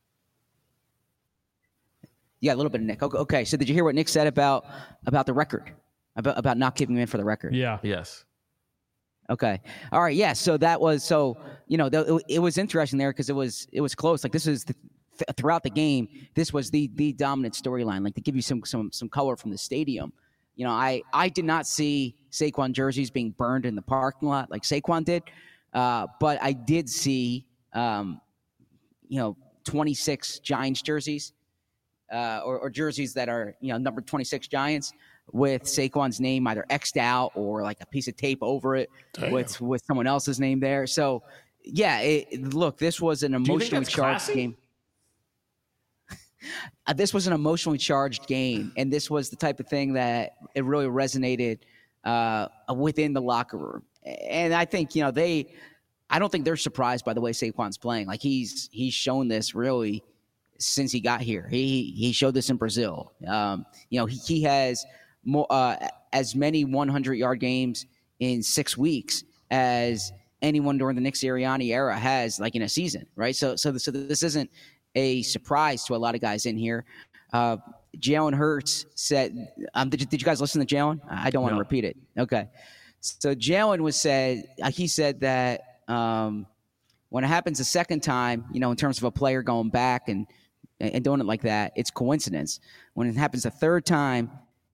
Yeah, a little bit of Nick. Okay, okay. So did you hear what Nick said about about the record, about about not keeping him in for the record? Yeah. Yes. Okay. All right. Yeah. So that was so you know th- it, it was interesting there because it was it was close. Like this is the th- throughout the game, this was the the dominant storyline. Like to give you some some some color from the stadium. You know, I, I did not see Saquon jerseys being burned in the parking lot like Saquon did, uh, but I did see, um, you know, twenty-six Giants jerseys uh, or, or jerseys that are, you know, number twenty-six Giants with Saquon's name either X'd out or like a piece of tape over it with, with someone else's name there. So, yeah, it, look, this was an emotionally charged classy? game. Uh, this was an emotionally charged game, and this was the type of thing that it really resonated uh, within the locker room. And I think, you know, they – I don't think they're surprised by the way Saquon's playing. Like, he's he's shown this really since he got here. He he showed this in Brazil. Um, you know, he, he has more uh, as many hundred-yard games in six weeks as anyone during the Nick Sirianni era has, like, in a season, right? So, so, so this isn't – a surprise to a lot of guys in here. Uh, Jalen Hurts said, um, did, did you guys listen to Jalen? I don't want to No. repeat it. Okay. So Jalen was said, uh, he said that um, when it happens a second time, you know, in terms of a player going back and, and doing it like that, it's coincidence. When it happens a third time,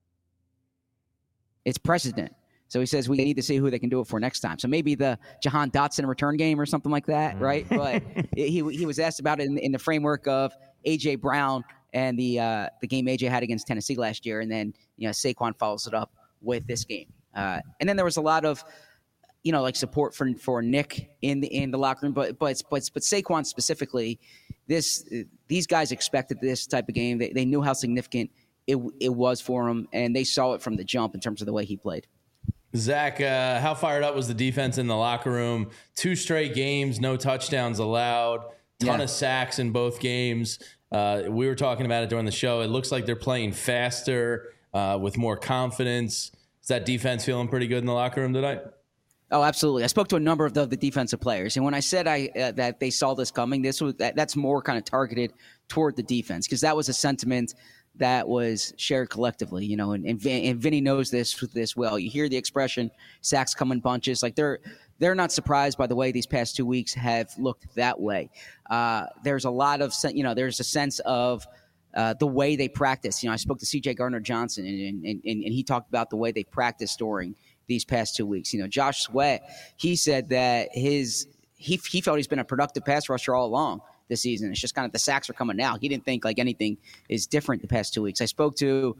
it's precedent. So he says we need to see who they can do it for next time. So maybe the Jahan Dotson return game or something like that, right? But he he was asked about it in, in the framework of A J Brown and the uh, the game A J had against Tennessee last year, and then you know Saquon follows it up with this game. Uh, and then there was a lot of you know like support for for Nick in the in the locker room, but but but but Saquon specifically, this these guys expected this type of game. They they knew how significant it it was for him, and they saw it from the jump in terms of the way he played. Zach, uh, how fired up was the defense in the locker room? Two straight games, no touchdowns allowed, ton Yeah. of sacks in both games. Uh, we were talking about it during the show. It looks like they're playing faster uh, with more confidence. Is that defense feeling pretty good in the locker room tonight? Oh, absolutely. I spoke to a number of the, the defensive players, and when I said I uh, that they saw this coming, this was that, that's more kind of targeted toward the defense because that was a sentiment that was shared collectively, you know, and, and, Vin, and Vinny knows this this well. You hear the expression sacks come in bunches. Like they're they're not surprised by the way these past two weeks have looked that way. Uh, there's a lot of, you know, there's a sense of uh, the way they practice. You know, I spoke to C J Gardner-Johnson, and, and, and, and he talked about the way they practice during these past two weeks. You know, Josh Sweat, he said that his he he felt he's been a productive pass rusher all along this season. It's just kind of the sacks are coming now. He didn't think like anything is different the past two weeks. I spoke to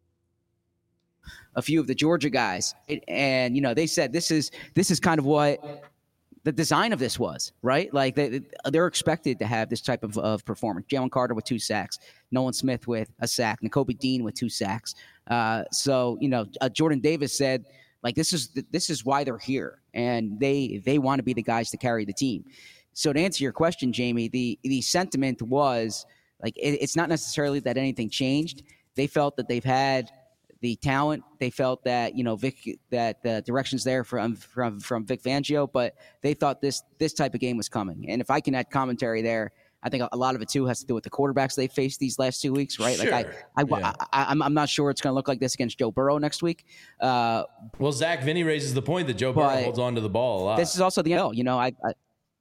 a few of the Georgia guys, and you know they said this is this is kind of what the design of this was, right? Like they they're expected to have this type of, of performance. Jalen Carter with two sacks, Nolan Smith with a sack, Nakobe Dean with two sacks. Uh, so you know uh, Jordan Davis said like this is this is why they're here, and they they want to be the guys to carry the team. So to answer your question, Jamie, the the sentiment was like it, it's not necessarily that anything changed. They felt that they've had the talent. They felt that you know Vic that the direction's there from from from Vic Fangio, but they thought this this type of game was coming. And if I can add commentary there, I think a lot of it too has to do with the quarterbacks they faced these last two weeks, right? Sure. Like I, I, Yeah. I, I I'm I'm not sure it's going to look like this against Joe Burrow next week. Uh, Well, Zach, Vinny raises the point that Joe Burrow But holds on to the ball a lot. this is also the N F L, you know. I, I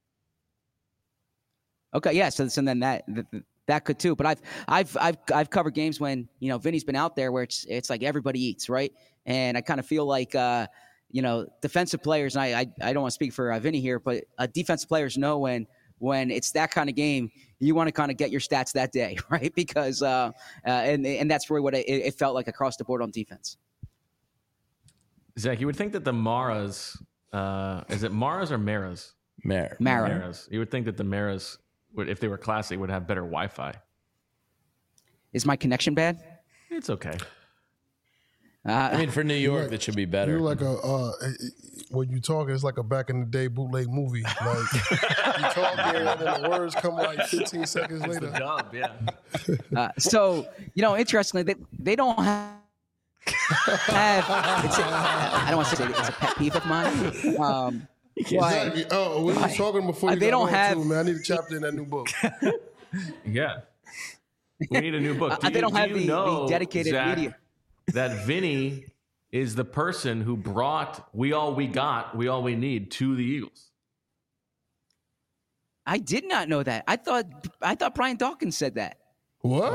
okay, yeah. So, so then that that could too. But I've I've I've I've covered games when you know Vinny's been out there where it's it's like everybody eats, right? And I kind of feel like uh, you know defensive players. And I I, I don't want to speak for uh, Vinny here, but uh, defensive players know when when it's that kind of game, you want to kind of get your stats that day, right? Because uh, uh and and that's really what it, it felt like across the board on defense. Zach, you would think that the Maras, uh, is it Maras or Maras? Mara. Mara. Maras. You would think that the Maras, would, if they were classy, would have better Wi-Fi. Is my connection bad? It's okay. Uh, I mean, for New York, like- that should be better. You're like a uh, when you talk, it's like a back in the day bootleg movie. Like you talk here and then the words come like fifteen seconds It's the later. dub, yeah. Uh, so, you know, interestingly, they, they don't have. have it's a, I don't want to say it's a pet peeve of mine. Um, Exactly. Oh, we were talking before. Uh, You they got don't on have- Too, man. I need a chapter in that new book. Yeah. We need a new book. Uh, Do they you- don't do have you the- the know, dedicated Zach, media. that Vinny is the person who brought We All We Got, We All We Need to the Eagles. I did not know that. I thought I thought Brian Dawkins said that. What?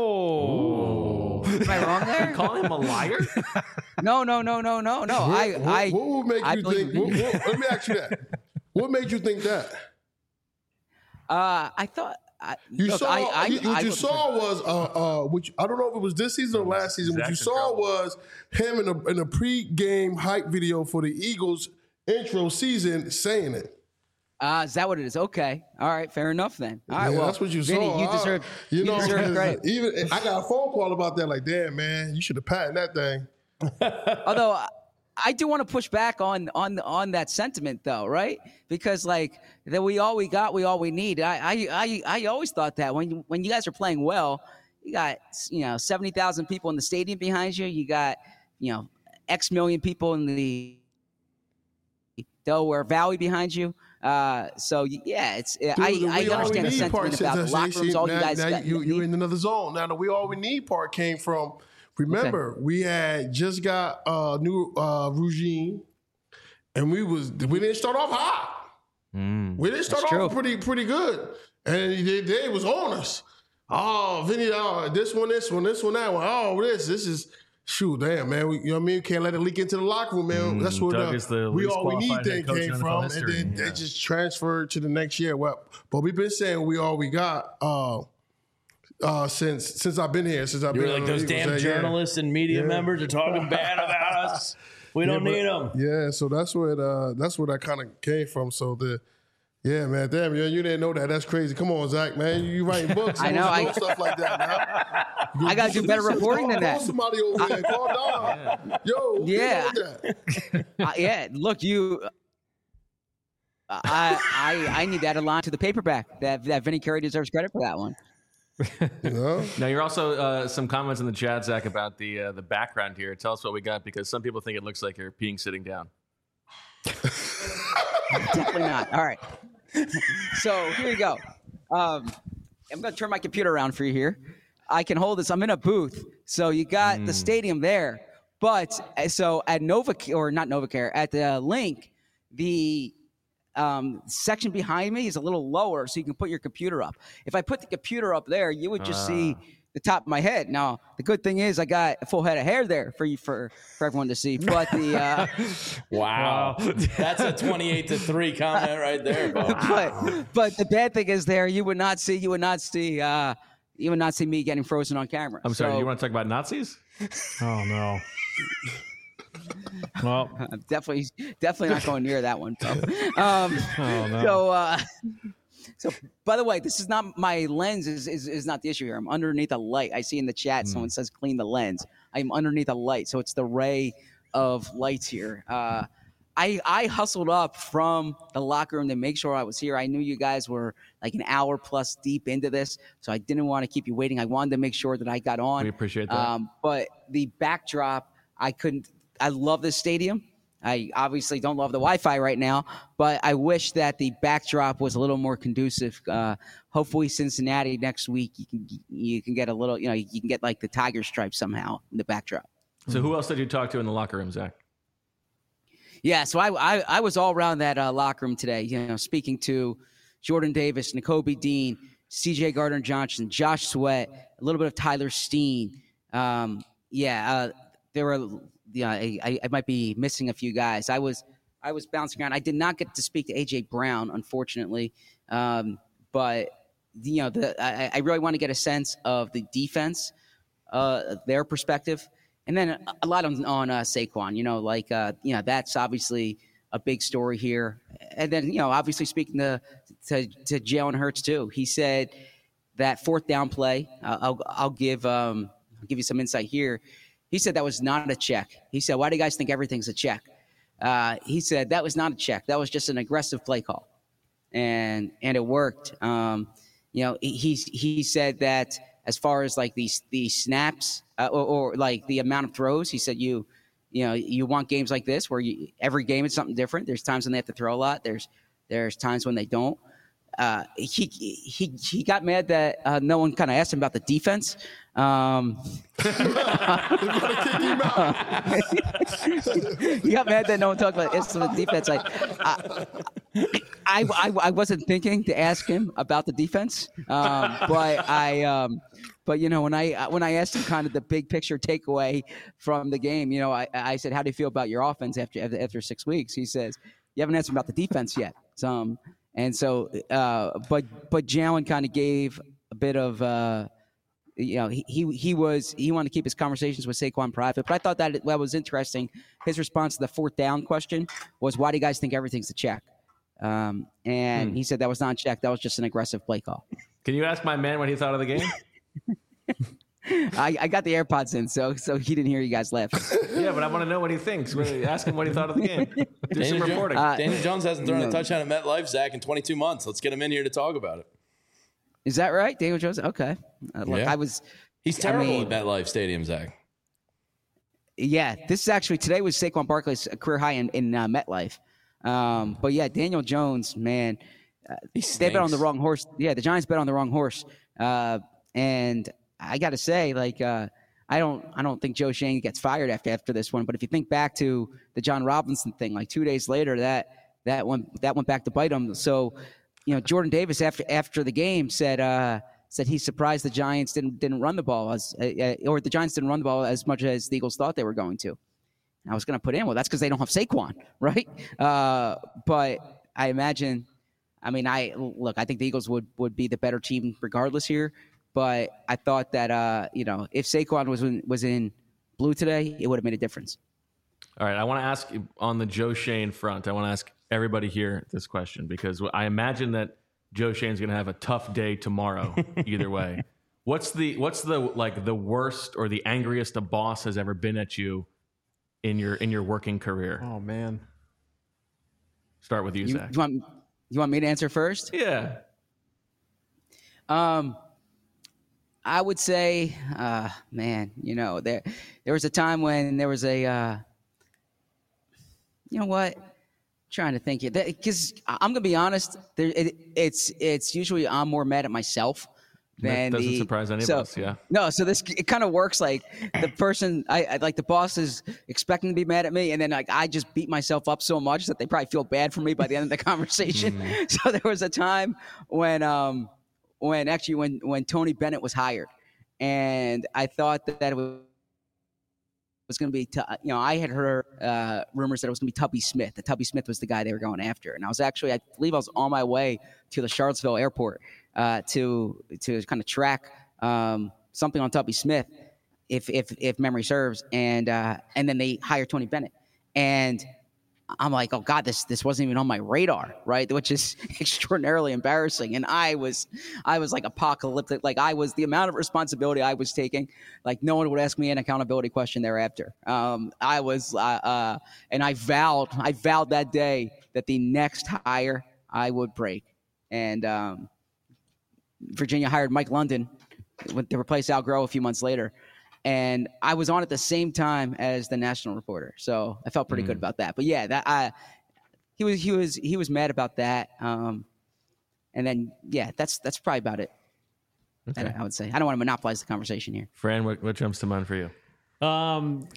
Oh. Am I wrong there? You call him a liar? No, no, no, no, no, no. What, I, what, I, what would make I you think? What, what, let me ask you that. What made you think that? Uh, I thought I, you look, saw. I, I, you, what I, you saw was, uh, uh, which I don't know if it was this season or last season. What you saw was him in a in a pre-game hype video for the Eagles intro season saying it. Uh, is that what it is? Okay. All right. Fair enough then. All right. Yeah, well, that's what you Vinny, saw. you deserve, I, you, you know, deserve credit. Even I got a phone call about that. Like, damn, man, you should have patented that thing. Although I do want to push back on on on that sentiment, though, right? Because like that, we all we got, we all we need. I I I, I always thought that when you, when you guys are playing well, you got you know seventy thousand people in the stadium behind you. You got you know X million people in the Delaware Valley behind you. Uh, so yeah, it's Dude, I, I understand the sentiment about the locker rooms. All now, you guys now got, you you in another zone. Now the we all we need part came from. Remember, okay. we had just got a new uh, regime, and we was we didn't start off hot. Mm, we didn't start off true. pretty pretty good, and they, they was on us. Oh, Vinny, oh, this one, this one, this one, that one. Oh, this, this is shoot, damn, man. We, you know what I mean? Can't let it leak into the locker room, man. Mm, That's where the, the we all we need thing came from, and then yeah. they just transferred to the next year. Well, but we've been saying we all we got. Uh, Uh, since since I've been here, since I've You're been like those damn say, journalists yeah. and media yeah. members are talking bad about us. We don't yeah, need them. Yeah, so that's where it, uh, that's where that kind of came from. So the yeah, man, damn, you, you didn't know that. That's crazy. Come on, Zach, man, you, you writing books. I know, I know stuff like that. Man. You, I got to do better reporting than that. Somebody over there, call down. Yo, yeah, uh, yeah. Look, you. Uh, I I I need that aligned to the paperback. That that Vinny Curry deserves credit for that one. You know? Now, you're also uh, some comments in the chat, Zach, about the uh, the background here. Tell us what we got, because some people think it looks like you're peeing sitting down. Definitely not. All right. So here you go. Um, I'm going to turn my computer around for you here. I can hold this. I'm in a booth. So you got mm. the stadium there. But so at Novacare, or not Novacare, at the Link, the Um, section behind me is a little lower, so you can put your computer up. If I put the computer up there, you would just uh. see the top of my head. Now, the good thing is I got a full head of hair there for you, for, for everyone to see. But the uh, wow, that's a twenty-eight to three comment right there. Wow. but but the bad thing is there you would not see you would not see uh, you would not see me getting frozen on camera. I'm sorry. So, you want to talk about Nazis? Oh no. Well, I'm definitely, definitely not going near that one. So, um, oh, no. so, uh, so, by the way, this is not my lens. Is, is is not the issue here. I'm underneath a light. I see in the chat mm. someone says clean the lens. I'm underneath a light, so it's the ray of lights here. Uh, I I hustled up from the locker room to make sure I was here. I knew you guys were like an hour plus deep into this, so I didn't want to keep you waiting. I wanted to make sure that I got on. We appreciate that. Um, but the backdrop, I couldn't. I love this stadium. I obviously don't love the Wi-Fi right now, but I wish that the backdrop was a little more conducive. Uh, hopefully, Cincinnati next week, you can you can get a little, you know, you can get like the tiger stripe somehow in the backdrop. So, who else did you talk to in the locker room, Zach? Yeah, so I I, I was all around that uh, locker room today. You know, speaking to Jordan Davis, Nakobe Dean, C J Gardner Johnson, Josh Sweat, a little bit of Tyler Steen. Um, yeah, uh, there were. Yeah, I, I might be missing a few guys. I was I was bouncing around. I did not get to speak to A J Brown, unfortunately. Um, but you know, the, I, I really want to get a sense of the defense, uh, their perspective, and then a, a lot on, on uh, Saquon. You know, like uh, you know, that's obviously a big story here. And then you know, obviously speaking to to, to Jalen Hurts too. He said that fourth down play. Uh, I'll I'll give um, I'll give you some insight here. He said that was not a check. He said, why do you guys think everything's a check? Uh, he said that was not a check. That was just an aggressive play call. And and it worked. Um, you know, he he said that as far as like these these snaps uh, or, or like the amount of throws, he said you you know, you want games like this where you, every game is something different. There's times when they have to throw a lot. There's there's times when they don't. Uh, he he he got mad that uh, no one kind of asked him about the defense. Um, he got mad that no one talked about the defense. Like, I, I, I, I wasn't thinking to ask him about the defense, um, but I, um, but you know, when I when I asked him kind of the big picture takeaway from the game, you know, I, I said, "How do you feel about your offense after after six weeks?" He says, "You haven't answered about the defense yet." So, um, and so, uh, but but Jalen kind of gave a bit of. Uh, You know, he, he he was he wanted to keep his conversations with Saquon private, but I thought that that was interesting. His response to the fourth down question was, "Why do you guys think everything's a check?" Um, and hmm. he said that was not a check; that was just an aggressive play call. Can you ask my man what he thought of the game? I, I got the AirPods in, so so he didn't hear you guys laugh. Yeah, but I want to know what he thinks. Ask him what he thought of the game. Do Daniel some reporting. Uh, Daniel Jones hasn't thrown no. a touchdown at MetLife, Zach, in twenty-two months. Let's get him in here to talk about it. Is that right, Daniel Jones? Okay, uh, look, yeah. I was. He's terrible I mean, at MetLife Stadium, Zach. Yeah, this is actually today was Saquon Barkley's career high in in uh, MetLife. Um, but yeah, Daniel Jones, man, uh, they bet on the wrong horse. Yeah, the Giants bet on the wrong horse. Uh, and I got to say, like, uh, I don't, I don't think Joe Schoen gets fired after after this one. But if you think back to the John Robinson thing, like two days later, that that went that went back to bite him. So, you know, Jordan Davis after after the game said. Uh, Said he's surprised the Giants didn't didn't run the ball as, uh, or the Giants didn't run the ball as much as the Eagles thought they were going to. And I was going to put in, well, that's because they don't have Saquon, right? Uh, but I imagine, I mean, I look, I think the Eagles would would be the better team regardless here. But I thought that uh, you know, if Saquon was in, was in blue today, it would have made a difference. All right, I want to ask on the Joe Schoen front. I want to ask everybody here this question because I imagine that. Joe Schoen's going to have a tough day tomorrow either way. What's the what's the like the worst or the angriest a boss has ever been at you in your in your working career? Oh man. Start with you, you Zach. You want you want me to answer first? Yeah. Um I would say uh man, you know, there there was a time when there was a uh you know what? Trying to think it because I'm gonna be honest. There, it, it's it's usually I'm more mad at myself than that doesn't the, surprise any so, of us. Yeah. No, so this it kind of works like the person I, I like the boss is expecting to be mad at me, and then like I just beat myself up so much that they probably feel bad for me by the end of the conversation. Mm. So there was a time when um when actually when when Tony Bennett was hired, and I thought that, that it was. was going to be, you know, I had heard uh, rumors that it was going to be Tubby Smith. That Tubby Smith was the guy they were going after. And I was actually, I believe I was on my way to the Charlottesville airport uh, to to kind of track um, something on Tubby Smith, if if if memory serves. And uh, and then they hired Tony Bennett. And I'm like, oh God, this this wasn't even on my radar, right? Which is extraordinarily embarrassing. And I was, I was like apocalyptic. Like I was the amount of responsibility I was taking. Like no one would ask me an accountability question thereafter. Um, I was, uh, uh, and I vowed, I vowed that day that the next hire I would break. And um, Virginia hired Mike London to replace Al Groh a few months later. And I was on at the same time as the national reporter, so I felt pretty mm. good about that. But yeah, that I he was he was he was mad about that. Um, and then yeah, that's that's probably about it. Okay. I, I would say I don't want to monopolize the conversation here. Fran, what, what jumps to mind for you? Um,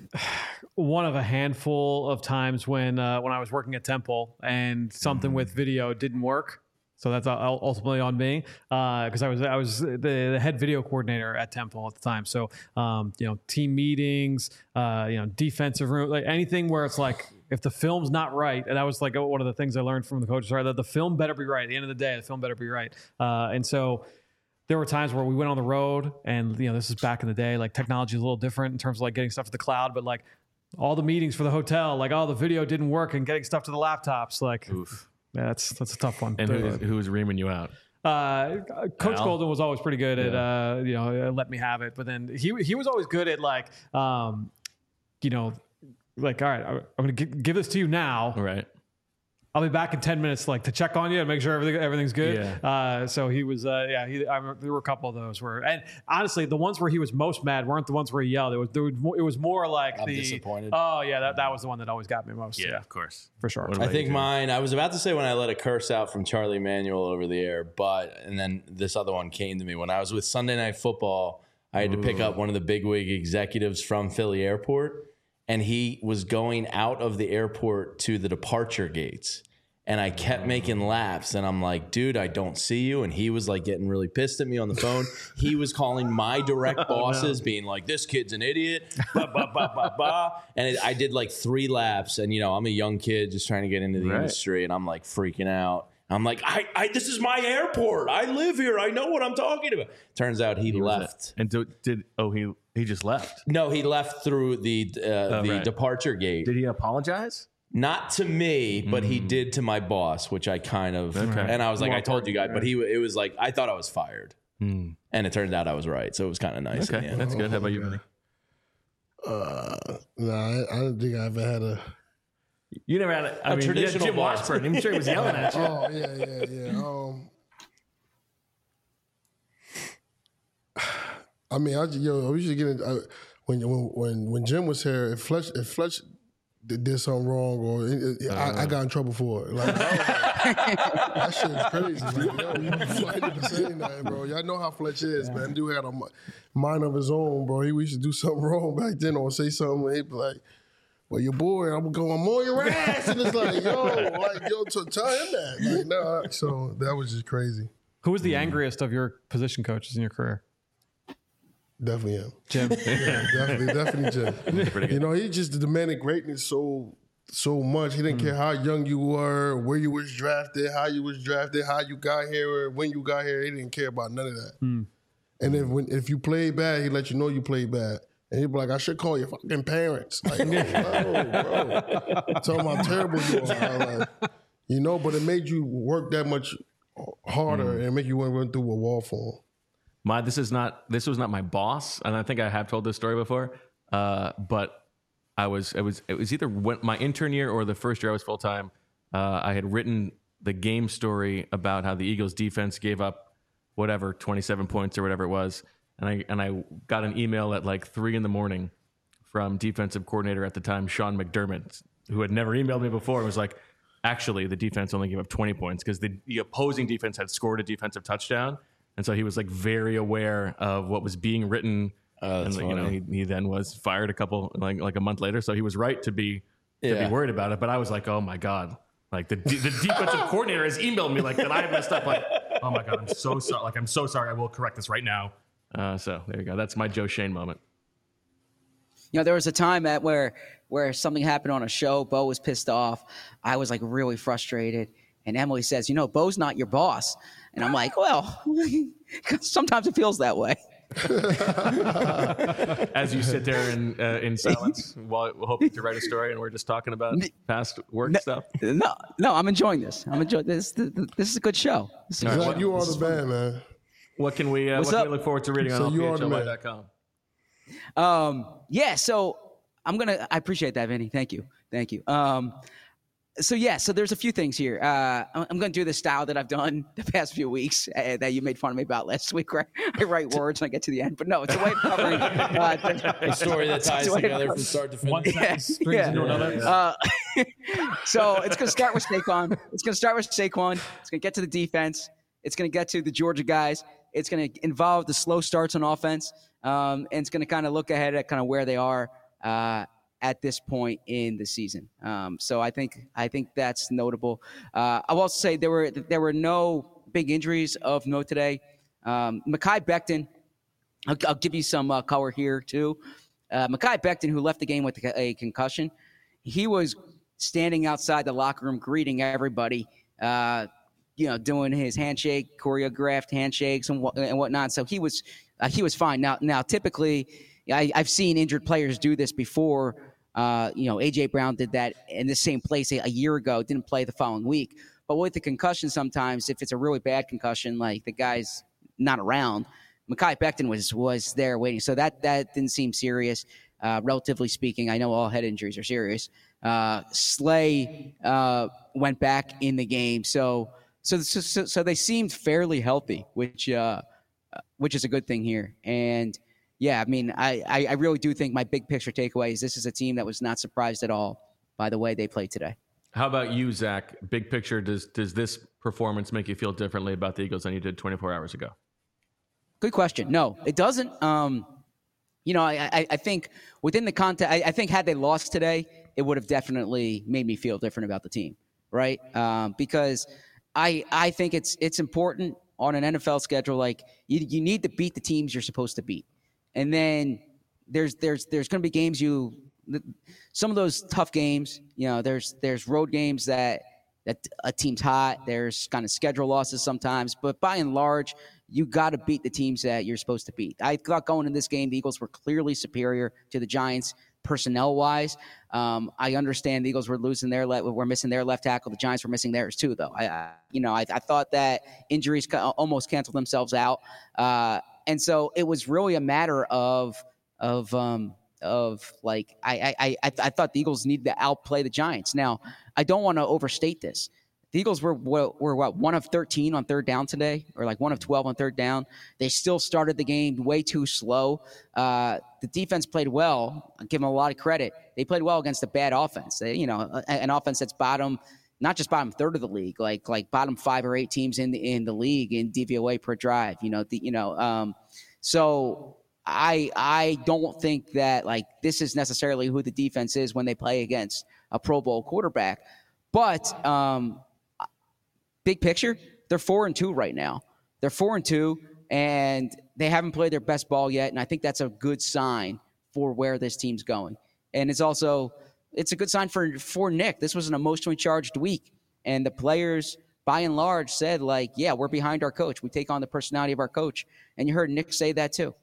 one of a handful of times when uh, when I was working at Temple and something mm. with video didn't work. So that's ultimately on me because uh, I was I was the, the head video coordinator at Temple at the time. So um, you know, team meetings, uh, you know, defensive room, like anything where it's like if the film's not right, and that was like one of the things I learned from the coaches, right? That the film better be right. At the end of the day, the film better be right. Uh, and so there were times where we went on the road, and you know, this is back in the day. Like technology is a little different in terms of like getting stuff to the cloud, but like all the meetings for the hotel, like oh, the video didn't work, and getting stuff to the laptops, like. Oof. Yeah, that's that's a tough one. And who was, who was reaming you out? Uh, Coach Al? Golden was always pretty good at yeah. uh, you know let me have it, but then he he was always good at like um, you know like all right, I'm going to give this to you now. Right. I'll be back in ten minutes, like to check on you and make sure everything everything's good. Yeah. Uh, so he was, uh, yeah. He, I remember there were a couple of those where, and honestly, the ones where he was most mad weren't the ones where he yelled. It was, there was more, it was more like I'm the disappointed. Oh yeah, that, that was the one that always got me most. Yeah, yeah. of course, for sure. I think mine. I was about to say when I let a curse out from Charlie Manuel over the air, but and then this other one came to me when I was with Sunday Night Football. I had Ooh. to pick up one of the bigwig executives from Philly Airport, and he was going out of the airport to the departure gates. And I kept making laps, and I'm like, dude, I don't see you. And he was like getting really pissed at me on the phone. He was calling my direct bosses, oh, no. being like, this kid's an idiot, bah, bah, bah, bah, bah. And it, I did like three laps, and you know, I'm a young kid just trying to get into the right. industry, and I'm like freaking out. I'm like, I, I, this is my airport. I live here. I know what I'm talking about. Turns out he, he left. And do, did oh he he just left? No, he left through the uh, oh, the right. departure gate. Did he apologize? Not to me, but mm. he did to my boss, which I kind of, okay. and I was like, More I told you guys, but he, it was like, I thought I was fired. Mm. And it turned out I was right. So it was kind of nice. Okay, that's good. How about you, Vinny? Uh, no, I, I don't think I ever had a. You never had a, I a mean, traditional Jim Washburn. I'm sure he was yelling at you. Oh, yeah, yeah, yeah. Um, I mean, I, yo, I used to get in, I, when, when, when Jim was here, if Fletch, if Fletch, did something wrong, or it, it, uh, I, I got in trouble for it. Like, like that shit is crazy. Like, yo, Fletch didn't say nothing, bro. Y'all know how Fletch is, man. Dude had a mind of his own, bro. He used to do something wrong back then, or say something, and he'd be like, "Well, your boy, I'm going, I'm on your ass," and it's like, yo, like, yo, to tell him that. Like, nah. So that was just crazy. Who was the angriest of your position coaches in your career? Definitely him. Jim. Yeah, definitely, definitely Jim. You know, he just demanded greatness so so much. He didn't mm. care how young you were, where you was drafted, how you was drafted, how you got here, or when you got here. He didn't care about none of that. Mm. And if when if you played bad, he'd let you know you played bad. And he'd be like, I should call your fucking parents. Like, oh, bro, bro. Tell them how terrible you are. Like, you know, but it made you work that much harder mm. and make you want to run through a wall for him. My this is not this was not my boss, and I think I have told this story before. Uh, but I was it was it was either when, my intern year or the first year I was full time. Uh, I had written the game story about how the Eagles defense gave up whatever twenty-seven points or whatever it was, and I and I got an email at like three in the morning from defensive coordinator at the time, Sean McDermott, who had never emailed me before. It was like, actually, the defense only gave up twenty points because the, the opposing defense had scored a defensive touchdown. And so he was like very aware of what was being written. Oh, that's and funny. You know, he, he then was fired a couple like like a month later. So he was right to be to yeah. be worried about it. But I was like, oh my god, like the the defensive coordinator has emailed me like that I messed up. Like, oh my god, I'm so sorry. Like I'm so sorry. I will correct this right now. Uh, so there you go. That's my Joe Schoen moment. You know, there was a time at where where something happened on a show. Bo was pissed off. I was like really frustrated. And Emily says, you know, Bo's not your boss. And I'm like, well, sometimes it feels that way. As you sit there in uh, in silence while hoping to write a story, and we're just talking about past work no, stuff. No, no, I'm enjoying this. I'm enjoying this. This, this is a good show. This is right, what, you are the man, man. What can we? Uh, what can we look forward to reading so on P P H H L Y dot com? Um, yeah. So I'm gonna. I appreciate that, Vinny. Thank you. Thank you. Um, So, yeah, so there's a few things here. Uh, I'm going to do the style that I've done the past few weeks uh, that you made fun of me about last week, where I write words and I get to the end. But no, it's a way of covering uh, a story that ties together from start to finish. One sentence strings yeah. into another. Uh, so it's going to start with Saquon. It's going to start with Saquon. It's going to get to the defense. It's going to get to the Georgia guys. It's going to involve the slow starts on offense. Um, and it's going to kind of look ahead at kind of where they are uh at this point in the season. Um, so I think I think that's notable. Uh, I will also say there were there were no big injuries of note today. Um, Mekhi Becton, I'll, I'll give you some uh, color here too. Uh, Mekhi Becton, who left the game with a concussion, he was standing outside the locker room greeting everybody, uh, you know, doing his handshake, choreographed handshakes and, what, and whatnot. So he was uh, he was fine. Now now typically I, I've seen injured players do this before. Uh, you know, A J Brown did that in the same place a, a year ago, didn't play the following week. But with the concussion, sometimes if it's a really bad concussion, like the guy's not around, Mekhi Becton was was there waiting. So that, that didn't seem serious, uh, relatively speaking. I know all head injuries are serious. Uh, Slay uh, went back in the game. So so, so, so they seemed fairly healthy, which uh, which is a good thing here. And yeah, I mean, I, I really do think my big picture takeaway is this is a team that was not surprised at all by the way they played today. How about you, Zach? Big picture, does does this performance make you feel differently about the Eagles than you did twenty-four hours ago? Good question. No, it doesn't. Um, you know, I, I, I think within the context, I, I think had they lost today, it would have definitely made me feel different about the team. right? Um, because I I think it's it's important on an N F L schedule. Like you you need to beat the teams you're supposed to beat, and then there's there's there's going to be games you some of those tough games. You know, there's there's road games that that a team's hot. There's kind of schedule losses sometimes, but by and large, you got to beat the teams that you're supposed to beat. I thought going in this game, the Eagles were clearly superior to the Giants personnel-wise. Um, I understand the Eagles were losing their le- were missing their left tackle. The Giants were missing theirs too, though. I, I you know, I, I thought that injuries ca- almost canceled themselves out, uh, and so it was really a matter of of um, of like I I I, I thought the Eagles needed to outplay the Giants. Now, I don't want to overstate this. The Eagles were, were, were what, one of thirteen on third down today, or like one of twelve on third down. They still started the game way too slow. Uh, the defense played well. I give them a lot of credit. They played well against a bad offense. They, you know, an offense that's bottom, not just bottom third of the league, like like bottom five or eight teams in the in the league in D V O A per drive. You know, the, you know. Um, so I I don't think that like this is necessarily who the defense is when they play against a Pro Bowl quarterback, but. Um, Big picture, they're four and two right now. They're four and two, and they haven't played their best ball yet. And I think that's a good sign for where this team's going. And it's also it's a good sign for for Nick. This was an emotionally charged week, and the players, by and large, said like, "Yeah, we're behind our coach. We take on the personality of our coach." And you heard Nick say that too.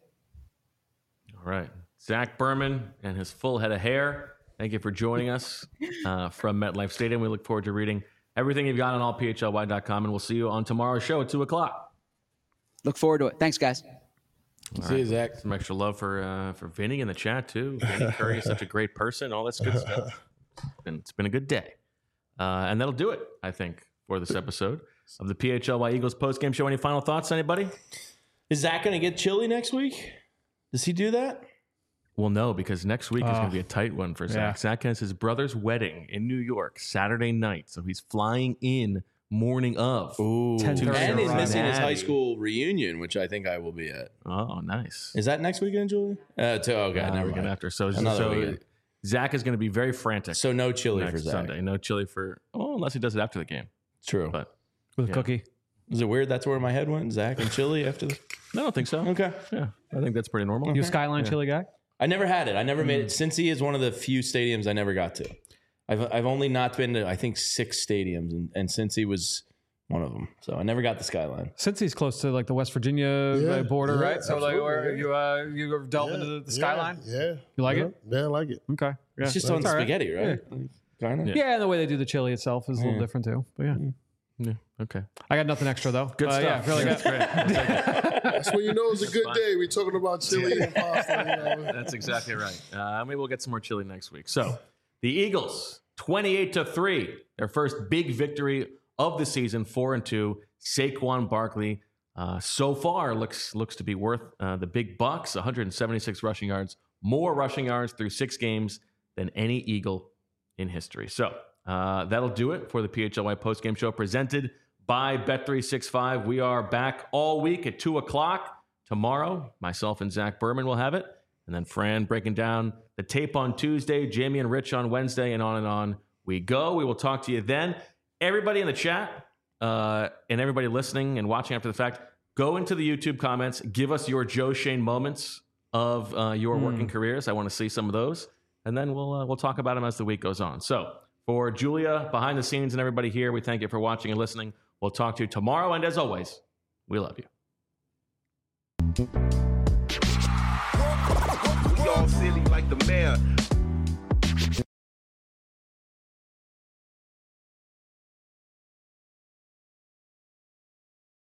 All right, Zach Berman and his full head of hair. Thank you for joining us uh, from MetLife Stadium. We look forward to reading everything you've got on all P H L Y dot com, and we'll see you on tomorrow's show at two o'clock. Look forward to it. Thanks, guys. All see right. you, Zach. Some extra love for uh, for Vinny in the chat, too. Vinny Curry is such a great person. All that's good stuff. It's been, it's been a good day. Uh, and that'll do it, I think, for this episode of the P H L Y Eagles postgame show. Any final thoughts, anybody? Is Zach going to get chilly next week? Does he do that? Well, no, because next week is Oh. going to be a tight one for Zach. Yeah. Zach has his brother's wedding in New York Saturday night, so he's flying in morning of. Ooh. ten thirty And he's arrival. missing his high Cincinnati. school reunion, which I think I will be at. Oh, nice. Is that next weekend, Julie? Uh, to, okay, Uh, never weekend mind. after. So, Another so weekend. Zach is going to be very frantic. So no chili next for Zach. Sunday. No chili for, oh, unless he does it after the game. True. But With Yeah. Cookie. Is it weird that's where my head went? Zach and chili after the... no, I don't think so. Okay. Yeah, I think that's pretty normal. You a Skyline Yeah. chili guy? I never had it. I never made Mm. it. Cincy is one of the few stadiums I never got to. I've I've only not been to, I think, six stadiums, and, and Cincy was one of them. So I never got the Skyline. Since he's close to like the West Virginia Yeah, uh, border, yeah, right? So like, absolutely, where yeah. you uh, you delve into the, the Skyline? Yeah. You like yeah. it? Yeah, I like it. Okay. Yeah. It's just on all right. spaghetti, right? Kind of. Yeah. Yeah, and the way they do the chili itself is a little Yeah. different too. But yeah, Yeah, okay. I got nothing extra though. Good Uh, stuff. Yeah, really That's good. great. That's when you know it's a good fine. day. We're talking about chili and pasta. You know. That's exactly right. Uh, maybe we'll get some more chili next week. So, the Eagles, twenty-eight to three, their first big victory of the season, four and two. Saquon Barkley, uh, so far looks looks to be worth uh, the big bucks. one hundred seventy-six rushing yards, more rushing yards through six games than any Eagle in history. So, uh, that'll do it for the P H L Y postgame show presented by Bet three sixty-five. We are back all week at two o'clock. Tomorrow, myself and Zach Berman will have it. And then Fran breaking down the tape on Tuesday, Jamie and Rich on Wednesday, and on and on we go. We will talk to you then. Everybody in the chat uh, and everybody listening and watching after the fact, go into the YouTube comments. Give us your Joe Shane moments of uh, your Mm. working careers. I want to see some of those. And then we'll, uh, we'll talk about them as the week goes on. So for Julia, behind the scenes, and everybody here, we thank you for watching and listening. We'll talk to you tomorrow. And as always, we love you. We all silly like the mayor.